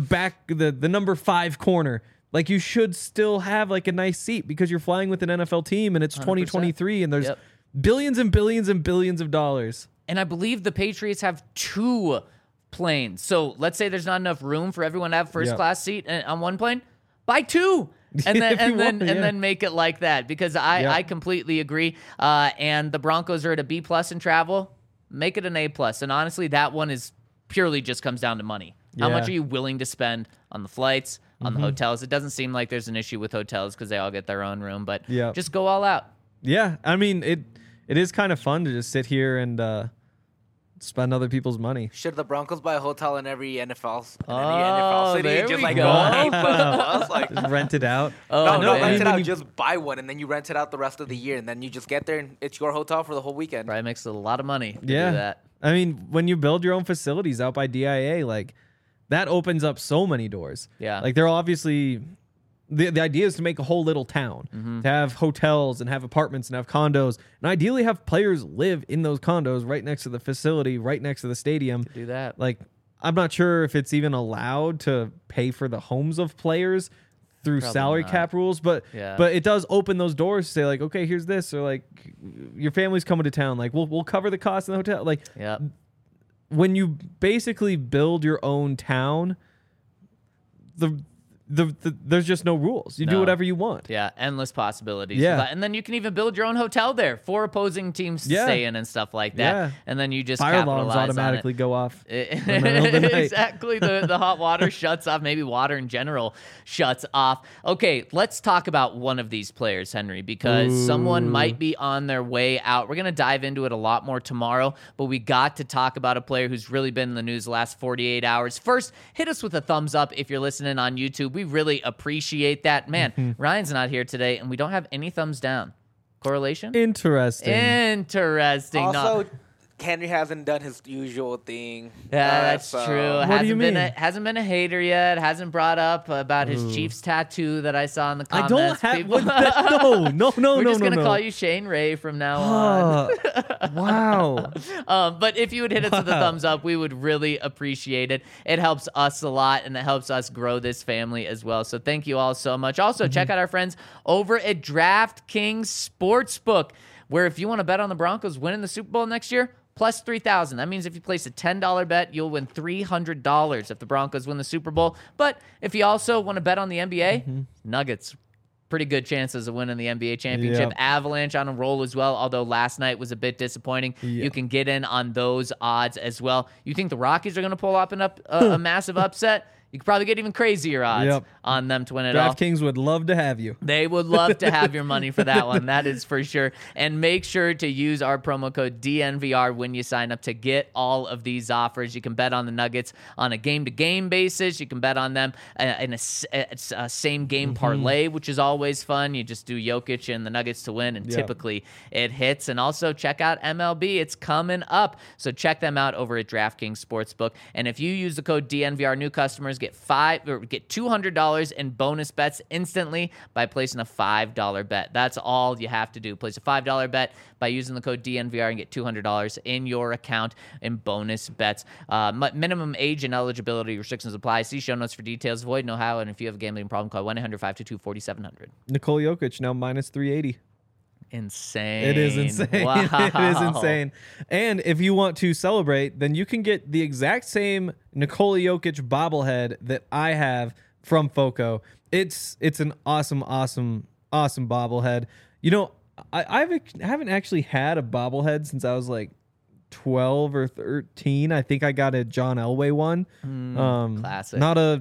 number 5 corner, like, you should still have like a nice seat, because you're flying with an NFL team and it's 2023 and there's billions and billions and billions of dollars. And I believe the Patriots have 2 planes. So let's say there's not enough room for everyone to have first class seat on one plane. Buy 2. And then make it like that, because I completely agree. And the Broncos are at a B+ in travel. Make it an A+. And honestly, that one is purely just comes down to money. How much are you willing to spend on the flights, on the hotels? It doesn't seem like there's an issue with hotels because they all get their own room, but just go all out. Yeah, I mean, it is kind of fun to just sit here and spend other people's money. Should the Broncos buy a hotel in every NFL city? There Just we like go. go A++, like Just rent it out. no, man. rent it out. Just buy one, and then you rent it out the rest of the year, and then you just get there, and it's your hotel for the whole weekend. Probably makes a lot of money to do Yeah. that. I mean, when you build your own facilities out by DIA, like, that opens up so many doors. Yeah. Like, they're obviously... The idea is to make a whole little town, to have hotels and have apartments and have condos, and ideally have players live in those condos right next to the facility, right next to the stadium. Do that. Like, I'm not sure if it's even allowed to pay for the homes of players through Probably salary not. cap rules, but it does open those doors to say, like, okay, here's this, or like, your family's coming to town, like, we'll cover the cost of the hotel. Like, when you basically build your own town, there's just no rules. You do whatever you want. Yeah, endless possibilities. Yeah. And then you can even build your own hotel there for opposing teams to stay in and stuff like that. Yeah. And then you just Fire alarms capitalize automatically on it. go off. In the middle of the night. Exactly. The hot water shuts off. Maybe water in general shuts off. Okay, let's talk about one of these players, Henry, because someone might be on their way out. We're going to dive into it a lot more tomorrow, but we got to talk about a player who's really been in the news the last 48 hours. First, hit us with a thumbs up if you're listening on YouTube. We really appreciate that. Man, Ryan's not here today, and we don't have any thumbs down. Correlation? Interesting. Also, Henry hasn't done his usual thing. Yeah, that's true. What do you mean? Hasn't been a hater yet. Hasn't brought up about his Chiefs tattoo that I saw in the I comments. don't have... People- No. We're just going to call you Shane Ray from now on. Wow. But if you would hit us with a thumbs up, we would really appreciate it. It helps us a lot, and it helps us grow this family as well. So thank you all so much. Also, check out our friends over at DraftKings Sportsbook, where if you want to bet on the Broncos winning the Super Bowl next year, plus 3,000. That means if you place a $10 bet, you'll win $300 if the Broncos win the Super Bowl. But if you also want to bet on the NBA, Nuggets, pretty good chances of winning the NBA championship. Yep. Avalanche on a roll as well, although last night was a bit disappointing. You can get in on those odds as well. You think the Rockies are going to pull up a massive upset? You could probably get even crazier odds on them to win it all. DraftKings would love to have you. They would love to have your money for that one. That is for sure. And make sure to use our promo code DNVR when you sign up to get all of these offers. You can bet on the Nuggets on a game-to-game basis. You can bet on them in a same-game parlay, which is always fun. You just do Jokic and the Nuggets to win, and typically it hits. And also check out MLB. It's coming up. So check them out over at DraftKings Sportsbook. And if you use the code DNVR, new customers get $200 in bonus bets instantly by placing a $5 bet. That's all you have to do. Place a $5 bet by using the code DNVR and get $200 in your account in bonus bets. Minimum age and eligibility restrictions apply. See show notes for details. Avoid no how. And if you have a gambling problem, call 1-800-522-4700. Nikola Jokic now minus 380. Insane. It is insane. Wow. It is insane. And if you want to celebrate, then you can get the exact same Nikola Jokic bobblehead that I have from Foco. It's an awesome bobblehead. You know, I haven't actually had a bobblehead since I was like 12 or 13. I think I got a John Elway one. Classic. Not a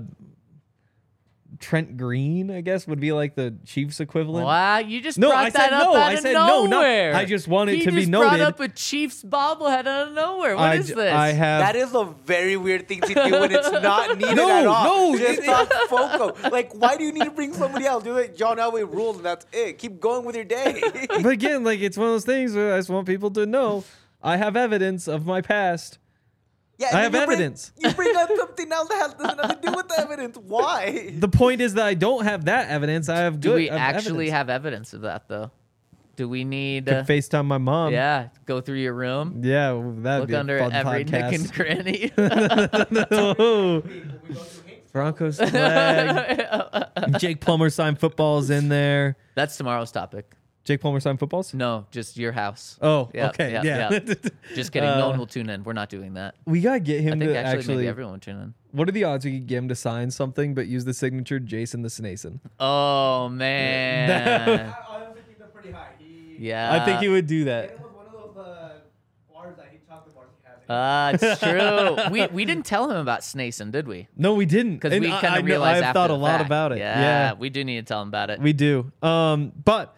Trent Green, I guess, would be like the Chiefs equivalent. Wow, you just brought that up out of nowhere. I just wanted to be noted. noted. He just brought up a Chiefs bobblehead out of nowhere. What is this? I have. That is a very weird thing to do when it's not needed at all. Just talk Foco. Like, why do you need to bring somebody else? Do like John Elway rules and that's it. Keep going with your day. But again, like, it's one of those things where I just want people to know I have evidence of my past. Yeah, I have evidence. You bring up something else that has nothing to do with the evidence. Why? The point is that I don't have that evidence. I have good. Do we actually have evidence of that, though? Do we need to FaceTime my mom? Yeah, go through your room. Yeah, that'd look be a under fun every podcast. nook and cranny. No. Broncos flag. Jake Plummer signed footballs in there. That's tomorrow's topic. Jake Plummer signed footballs? No, just your house. Oh, Yep, okay. yep, Yeah. yep. Just kidding. No one will tune in. We're not doing that. We got to get him I think to actually maybe everyone will tune in. What are the odds we could get him to sign something but use the signature Jason the Snason? Oh, man. I think they're pretty high. Yeah. I think he would do that. It was one of those bars that he chocolate bars he has. It's true. We didn't tell him about Snason, did we? No, we didn't. Because And we kind of realized I've after thought the a lot fact. about it. Yeah, we do need to tell him about it. We do. But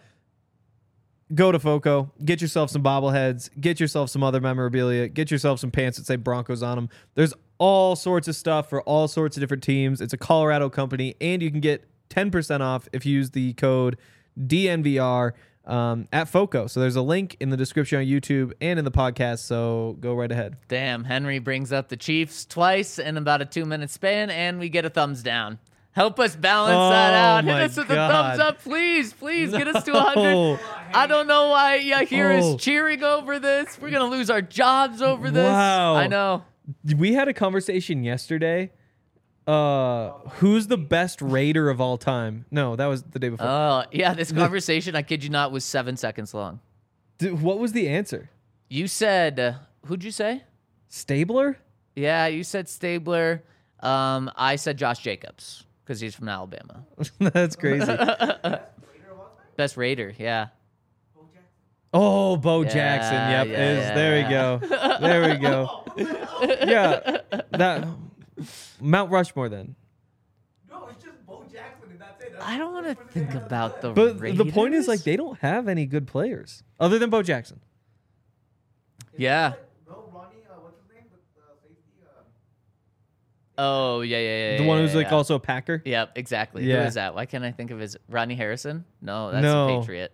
go to Foco, get yourself some bobbleheads, get yourself some other memorabilia, get yourself some pants that say Broncos on them. There's all sorts of stuff for all sorts of different teams. It's a Colorado company, and you can get 10% off if you use the code DNVR at Foco. So there's a link in the description on YouTube and in the podcast, so go right ahead. Damn, Henry brings up the Chiefs twice in about a 2-minute span, and we get a thumbs down. Help us balance that out. Hit my us with a God. thumbs up, please. Please get us to 100. I don't know why you hear us cheering over this. We're going to lose our jobs over this. Wow. I know. We had a conversation yesterday. Who's the best Raider of all time? No, that was the day before. Oh, yeah, this conversation, I kid you not, was 7 seconds long. Dude, what was the answer? You said, who'd you say? Stabler? Yeah, you said Stabler. I said Josh Jacobs because he's from Alabama. That's crazy. Best Raider, yeah. Oh, Bo Yeah, Jackson. Yep. yeah, there yeah. we go. There we go. Yeah. That Mount Rushmore then. No, it's just Bo Jackson and that's it. I don't want to think about the But Raiders. the point is, like, they don't have any good players other than Bo Jackson. Yeah. No, Ronnie, what's his name? The safety. Oh, yeah. The one who's yeah, like yeah. also a Packer. Yep, exactly. Yeah. Who is that? Why can't I think of his Rodney Harrison? No, that's No. a Patriot.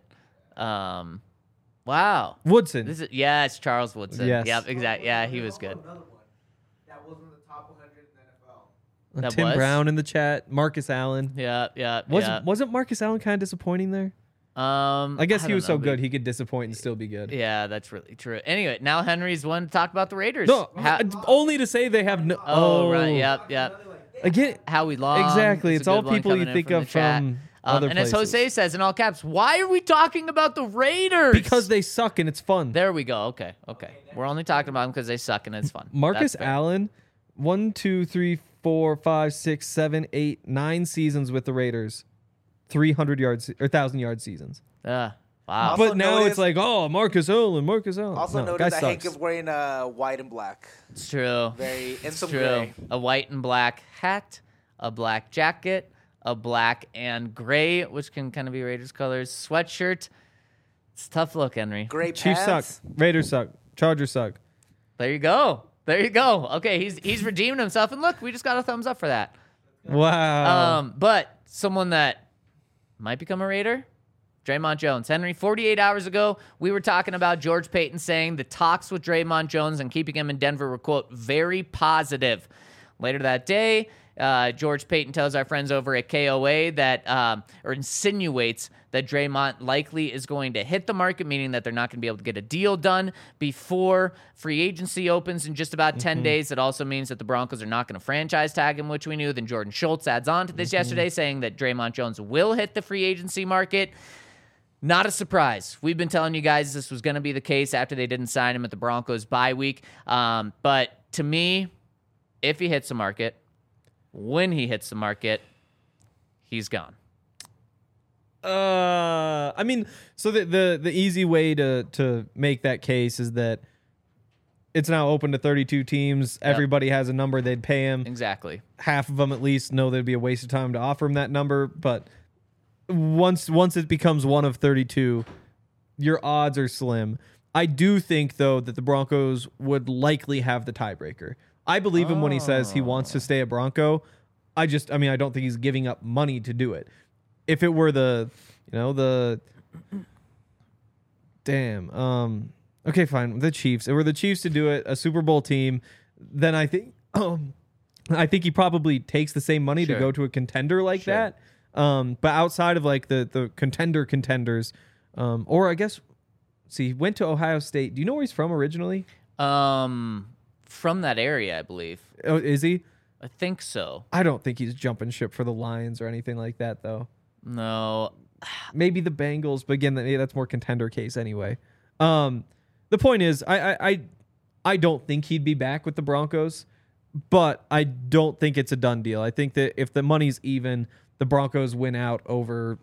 Wow. Woodson. It's Charles Woodson. Yes. Yep, exactly. Yeah, he was good. Another one that was in the top 100 in the NFL. That Tim was? Brown in the chat. Marcus Allen. Yeah. Wasn't Marcus Allen kind of disappointing there? I guess he was so good he could disappoint and still be good. Yeah, that's really true. Anyway, now Henry's one to talk about the Raiders. No, only to say they have no. Oh, right. Yep. Again, Howie Long. exactly. is a It's all good one people you coming in think from of the chat. from other And as places. Jose says in all caps, why are we talking about the Raiders? Because they suck and it's fun. There we go. Okay. We're only talking about them because they suck and it's fun. Marcus That's fair. Allen, 1, 2, 3, 4, 5, 6, 7, 8, 9 seasons with the Raiders, 300 yards or 1,000-yard seasons. Wow. Also But now notice- it's like, oh, Marcus Allen. Also No, notice guy that Hank sucks. is wearing white and black. It's true. Very and It's some true. gray. A white and black hat, a black jacket, a black and gray, which can kind of be Raiders colors, sweatshirt. It's a tough look, Henry. Gray Chiefs pants. suck. Raiders suck. Chargers suck. There you go. There you go. Okay, he's redeemed himself, and look, we just got a thumbs up for that. Wow. But someone that might become a Raider, Draymond Jones. Henry, 48 hours ago, we were talking about George Payton saying the talks with Draymond Jones and keeping him in Denver were, quote, very positive. Later that day, George Payton tells our friends over at KOA that, or insinuates that Draymond likely is going to hit the market, meaning that they're not going to be able to get a deal done before free agency opens in just about 10 days. It also means that the Broncos are not going to franchise tag him, which we knew. Then Jordan Schultz adds on to this yesterday, saying that Draymond Jones will hit the free agency market. Not a surprise. We've been telling you guys this was going to be the case after they didn't sign him at the Broncos bye week. But to me, if he hits the market, when he hits the market, he's gone. I mean, so the easy way to make that case is that it's now open to 32 teams. Yep. Everybody has a number they'd pay him. Exactly. Half of them at least know there'd be a waste of time to offer him that number. But once it becomes one of 32, your odds are slim. I do think, though, that the Broncos would likely have the tiebreaker. I believe him when he says he wants to stay a Bronco. I don't think he's giving up money to do it. If it were okay, fine, the Chiefs. If it were the Chiefs to do it, a Super Bowl team, then I think he probably takes the same money to go to a contender like that. But outside of like the contenders, or I guess, he went to Ohio State. Do you know where he's from originally? From that area, I believe. Oh, is he? I think so. I don't think he's jumping ship for the Lions or anything like that, though. No. Maybe the Bengals, but again, that's more contender case anyway. The point is, I don't think he'd be back with the Broncos, but I don't think it's a done deal. I think that if the money's even, the Broncos win out over,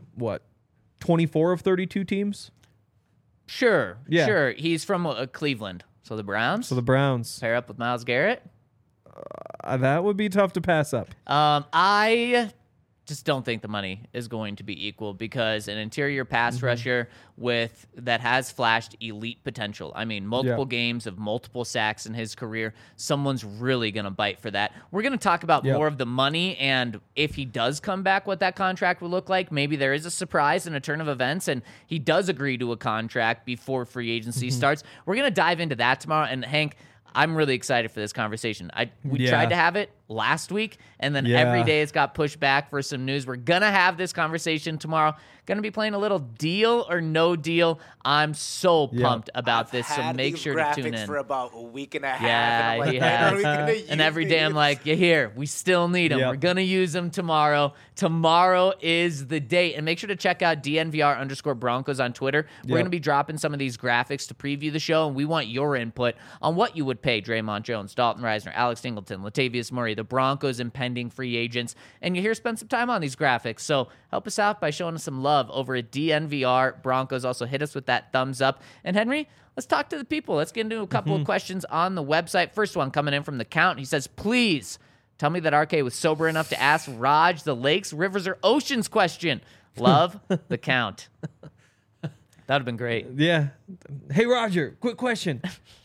24 of 32 teams? Sure. Yeah. Sure. He's from Cleveland. So the Browns? So the Browns. Pair up with Myles Garrett? That would be tough to pass up. I just don't think the money is going to be equal because an interior pass rusher that has flashed elite potential. I mean, multiple games of multiple sacks in his career. Someone's really going to bite for that. We're going to talk about more of the money and if he does come back, what that contract will look like. Maybe there is a surprise and a turn of events and he does agree to a contract before free agency starts. We're going to dive into that tomorrow. And Hank, I'm really excited for this conversation. We tried to have it last week, and then every day it's got pushed back for some news. We're going to have this conversation tomorrow. Going to be playing a little Deal or No Deal. I'm so pumped about this, so make sure to tune in. For about a week and a half. Yeah, and he has. And every day I'm like, you hear, we still need them. We're going to use them tomorrow. Tomorrow is the date. And make sure to check out DNVR_Broncos on Twitter. We're going to be dropping some of these graphics to preview the show, and we want your input on what you would pay Draymond Jones, Dalton Reisner, Alex Singleton, Latavius Murray, the Broncos impending free agents. And you spend some time on these graphics. So help us out by showing us some love over at DNVR Broncos. Also hit us with that thumbs up. And Henry, let's talk to the people. Let's get into a couple of questions on the website. First one coming in from the Count. He says, please tell me that RK was sober enough to ask Raj the lakes, rivers, or oceans question. Love, the Count. That would have been great. Yeah. Hey, Roger, quick question.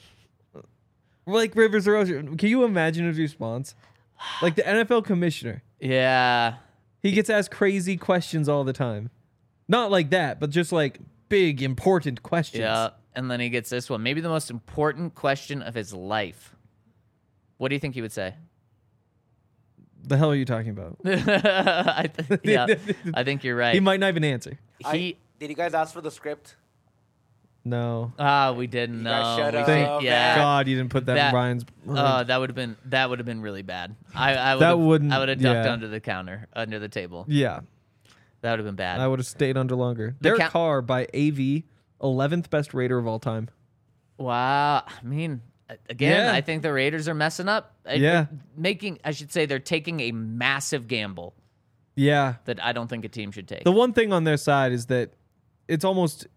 Lake, rivers, or ocean? Can you imagine his response? Like the NFL commissioner. Yeah. He gets asked crazy questions all the time. Not like that, but just like big, important questions. Yeah. And then he gets this one. Maybe the most important question of his life. What do you think he would say? The hell are you talking about? I think you're right. He might not even answer. Did you guys ask for the script? No. We didn't. You guys No. shut We up. didn't- yeah. God, you didn't put that in Brian's. That would have been really bad. I would have ducked under the counter, under the table. Yeah. That would have been bad. I would have stayed under longer. Derek Carr by AV, 11th best Raider of all time. Wow. I mean, again, I think the Raiders are messing up. They're taking a massive gamble. Yeah. That I don't think a team should take. The one thing on their side is that it's almost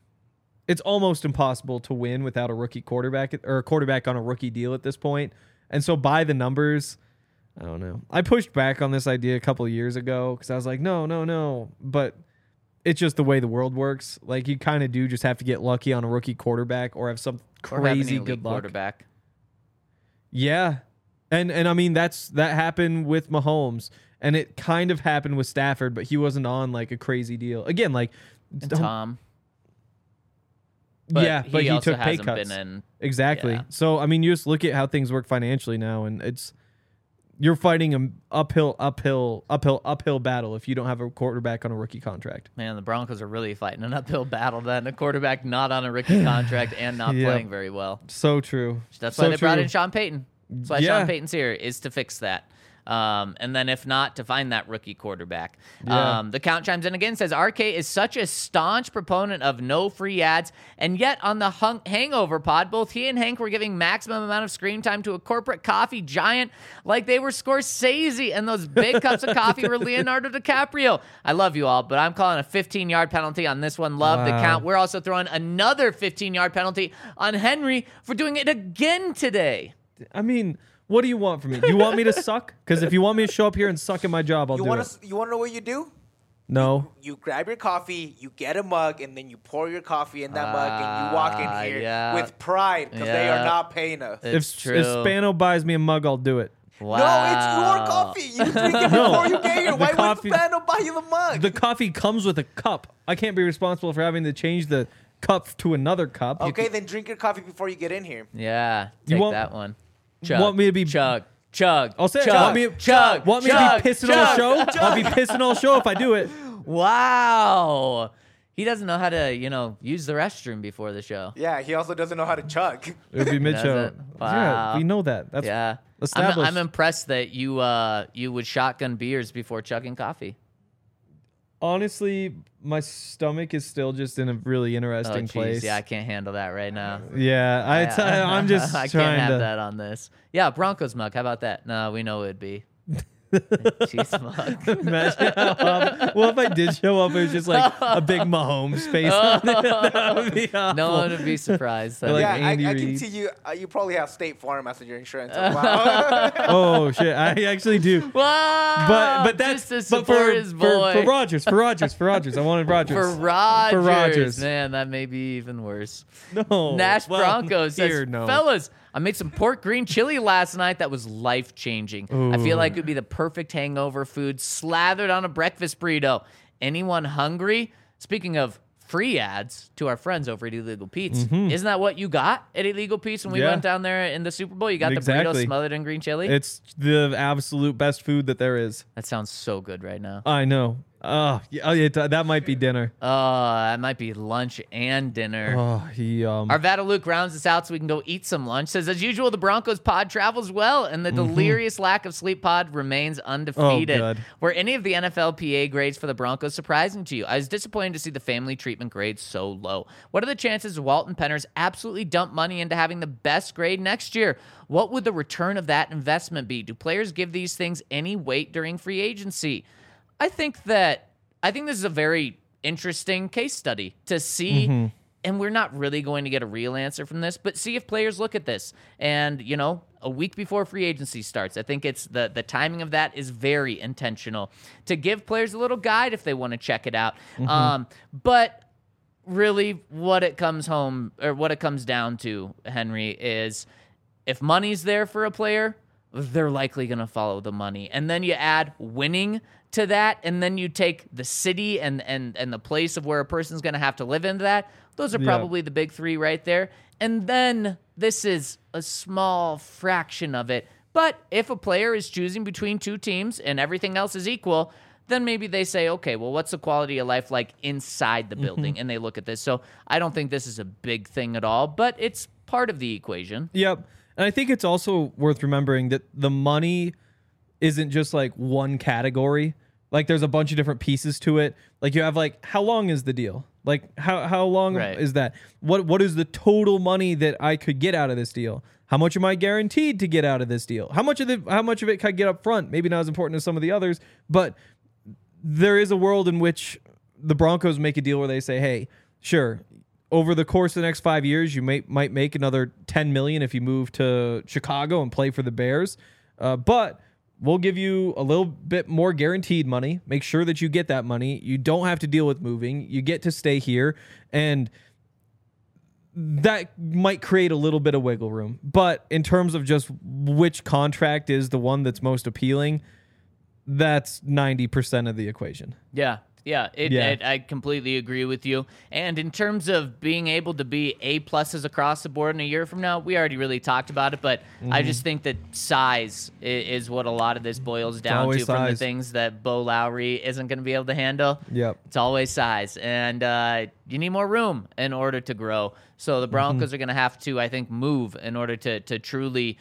impossible to win without a rookie quarterback or a quarterback on a rookie deal at this point. And so by the numbers, I don't know. I pushed back on this idea a couple of years ago because I was like, no. But it's just the way the world works. Like, you kind of do just have to get lucky on a rookie quarterback or have some crazy good luck. Quarterback. Yeah. And I mean, that happened with Mahomes. And it kind of happened with Stafford, but he wasn't on like a crazy deal. Again, like And Tom. But he also took pay hasn't cuts. been in. Exactly. Yeah. So, I mean, you just look at how things work financially now, and you're fighting an uphill battle if you don't have a quarterback on a rookie contract. Man, the Broncos are really fighting an uphill battle then. A quarterback not on a rookie contract and not Yeah. playing very well. So true. That's So why they brought true. in Sean Payton. That's why Yeah. Sean Payton's here, is to fix that. And then if not, to find that rookie quarterback. Yeah. The count chimes in again, says RK is such a staunch proponent of no free ads, and yet on the Hangover pod, both he and Hank were giving maximum amount of screen time to a corporate coffee giant like they were Scorsese, and those big cups of coffee were Leonardo DiCaprio. I love you all, but I'm calling a 15-yard penalty on this one. Love the Wow. count. We're also throwing another 15-yard penalty on Henry for doing it again today. I mean, what do you want from me? Do you want me to suck? Because if you want me to show up here and suck at my job, I'll You do want it. to? You want to know what you do? No. You grab your coffee, you get a mug, and then you pour your coffee in that mug, and you walk in here yeah. with pride because they are Yeah. not paying us. It's If true. Spano buys me a mug, I'll do it. Wow. No, it's your coffee. You drink it before you get here. The Why coffee- would Spano buy you the mug? The coffee comes with a cup. I can't be responsible for having to change the cup to another cup. Okay, then drink your coffee before you get in here. Yeah, You take want- that one. want me to be- chug? I'll say it. chug, Want me- chug, Want me chug, to be pissing chug, on the show? chug. I'll be pissing on the show if I do it. Wow. He doesn't know how to, use the restroom before the show. Yeah, he also doesn't know how to chug. It would be mid-show. Does it? Yeah, Wow. we know that. That's Yeah. established. I'm impressed that you would shotgun beers before chugging coffee. Honestly, my stomach is still just in a really interesting Oh, place. jeez. Yeah, I can't handle that right now. Yeah, I'm just I trying can't have to. that on this. Yeah, Broncos mug. How about that? No, we know it'd be. Cheese mug. Imagine well, if I did show up, it was just like a big Mahomes face on it. That would be awful. No one would be surprised. Like yeah, Andy I can Reid. see you. You probably have State Farm as your insurance. Wow. Oh shit, I actually do. Wow, But that's just to but support his boy. for Rodgers. I wanted Rodgers. For Rodgers. Rodgers. Man, that may be even worse. No. Nash Well, Broncos says, here, no. fellas, I made some pork green chili last night that was life-changing. I feel like it would be the perfect hangover food slathered on a breakfast burrito. Anyone hungry? Speaking of free ads to our friends over at Illegal Pete's, isn't that what you got at Illegal Pete's when we Yeah. went down there in the Super Bowl? You got the burrito Exactly. smothered in green chili? It's the absolute best food that there is. That sounds so good right now. I know. That might be dinner. That might be lunch and dinner. Oh, he Arvada Luke rounds us out so we can go eat some lunch. Says, as usual, the Broncos pod travels well, and the delirious lack of sleep pod remains undefeated. good. Were any of the NFLPA grades for the Broncos surprising to you? I was disappointed to see the family treatment grade so low. What are the chances Walton Penners absolutely dump money into having the best grade next year? What would the return of that investment be? Do players give these things any weight during free agency? I think this is a very interesting case study to see, and we're not really going to get a real answer from this, but see if players look at this. And, a week before free agency starts, I think it's the timing of that is very intentional to give players a little guide if they want to check it out. But really what it comes down to, Henry, is if money's there for a player, they're likely going to follow the money. And then you add winning to that, and then you take the city and the place of where a person's going to have to live into that. Those are Yeah. probably the big three right there. And then this is a small fraction of it. But if a player is choosing between two teams and everything else is equal, then maybe they say, okay, well, what's the quality of life like inside the building? And they look at this. So I don't think this is a big thing at all, but it's part of the equation. Yep. And I think it's also worth remembering that the money isn't just like one category. Like there's a bunch of different pieces to it. Like you have like, how long is the deal? Like how long Right. is that? What is the total money that I could get out of this deal? How much am I guaranteed to get out of this deal? How much of it can I get up front? Maybe not as important as some of the others, but there is a world in which the Broncos make a deal where they say, hey, sure, over the course of the next 5 years, you might make another $10 million if you move to Chicago and play for the Bears. But we'll give you a little bit more guaranteed money. Make sure that you get that money. You don't have to deal with moving. You get to stay here. And that might create a little bit of wiggle room. But in terms of just which contract is the one that's most appealing, that's 90% of the equation. Yeah. I completely agree with you. And in terms of being able to be A pluses across the board in a year from now, we already really talked about it, but I just think that size is what a lot of this boils down to from the things that Bo Lowry isn't going to be able to handle. Yep. It's always size. And you need more room in order to grow. So the Broncos are going to have to, I think, move in order to truly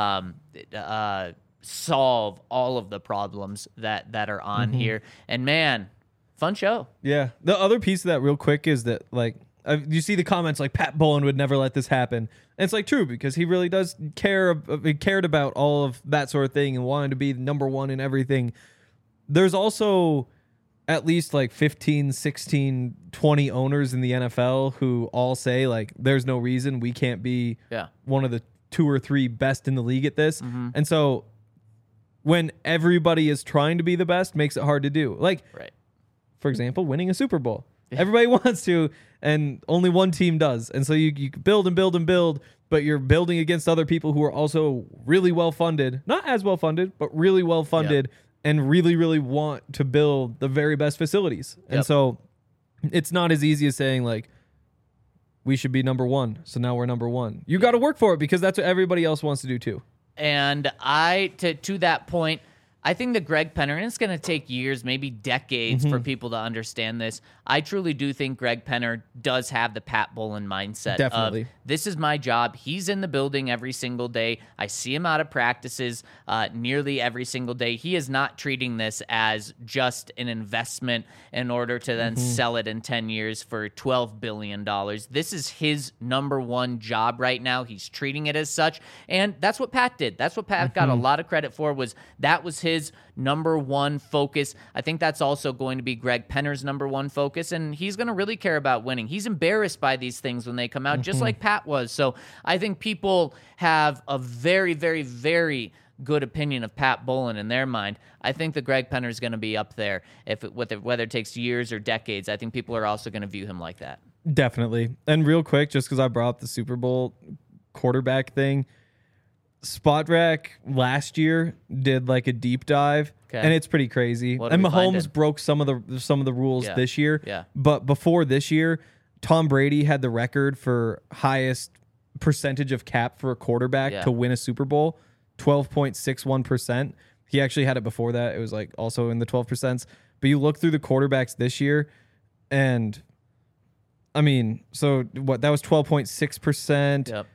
solve all of the problems that are on here. And man, fun show. Yeah. The other piece of that real quick is that, like, you see the comments like Pat Bowlen would never let this happen. And it's like true, because he really does cared about all of that sort of thing and wanted to be number one in everything. There's also at least like 15, 16, 20 owners in the NFL who all say, like, there's no reason we can't be one of the 2 or 3 best in the league at this. And so when everybody is trying to be the best, makes it hard to do. Like, for example, winning a Super Bowl. Everybody wants to, and only one team does. And so you build and build and build, but you're building against other people who are also really well-funded. Not as well-funded, but really well-funded, and really, really want to build the very best facilities. And so it's not as easy as saying, like, we should be number one, so now we're number one. You got to work for it, because that's what everybody else wants to do too. And to that point, I think that Greg Penner, and it's going to take years, maybe decades for people to understand this. I truly do think Greg Penner does have the Pat Bowlen mindset. Definitely. Of, this is my job. He's in the building every single day. I see him out of practices nearly every single day. He is not treating this as just an investment in order to then sell it in 10 years for $12 billion. This is his number one job right now. He's treating it as such. And that's what Pat did. That's what Pat got a lot of credit for, was his number one focus. I think that's also going to be Greg Penner's number one focus, and he's going to really care about winning. He's embarrassed by these things when they come out, just like Pat was. So I think people have a very, very, very good opinion of Pat Bowlen in their mind. I think that Greg Penner is going to be up there, whether it takes years or decades. I think people are also going to view him like that. Definitely. And real quick, just because I brought up the Super Bowl quarterback thing, Spotrac last year did like a deep dive, and it's pretty crazy. And Mahomes broke some of the rules this year. Yeah. But before this year, Tom Brady had the record for highest percentage of cap for a quarterback to win a Super Bowl, 12.61%. He actually had it before that. It was like also in the 12%. But you look through the quarterbacks this year, and I mean, so what? That was 12.6%. Yep.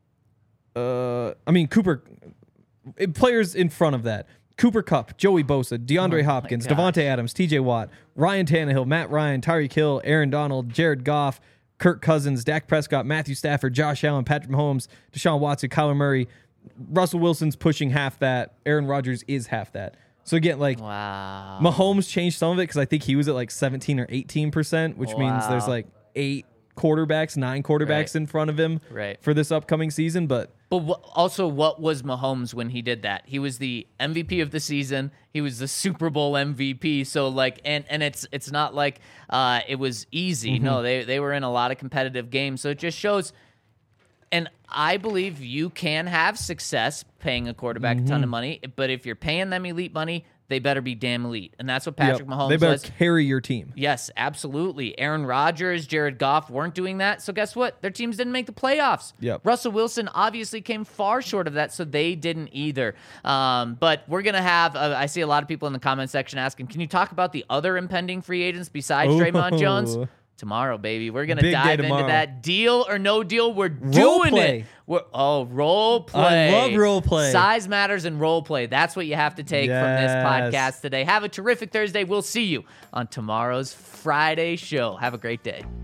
Cooper, players in front of that: Cooper Kupp, Joey Bosa, DeAndre Hopkins, Devontae Adams, TJ Watt, Ryan Tannehill, Matt Ryan, Tyreek Hill, Aaron Donald, Jared Goff, Kirk Cousins, Dak Prescott, Matthew Stafford, Josh Allen, Patrick Mahomes, Deshaun Watson, Kyler Murray. Russell Wilson's pushing half that. Aaron Rodgers is half that. So again, like, Mahomes changed some of it because I think he was at like 17 or 18%, which means there's like 9 quarterbacks in front of him for this upcoming season. But also, what was Mahomes when he did that? He was the MVP of the season. He was the Super Bowl MVP. So like, and it's not like it was easy. No, they were in a lot of competitive games. So it just shows. And I believe you can have success paying a quarterback a ton of money, but if you're paying them elite money, they better be damn elite. And that's what Patrick Mahomes was. They better carry your team. Yes, absolutely. Aaron Rodgers, Jared Goff weren't doing that. So guess what? Their teams didn't make the playoffs. Yep. Russell Wilson obviously came far short of that, so they didn't either. But we're going to have, I see a lot of people in the comment section asking, can you talk about the other impending free agents besides Draymond Jones? Tomorrow, baby. We're going to dive into that. Deal or no deal, we're doing it. Role play. I love role play. Size matters and role play. That's what you have to take from this podcast today. Have a terrific Thursday. We'll see you on tomorrow's Friday show. Have a great day.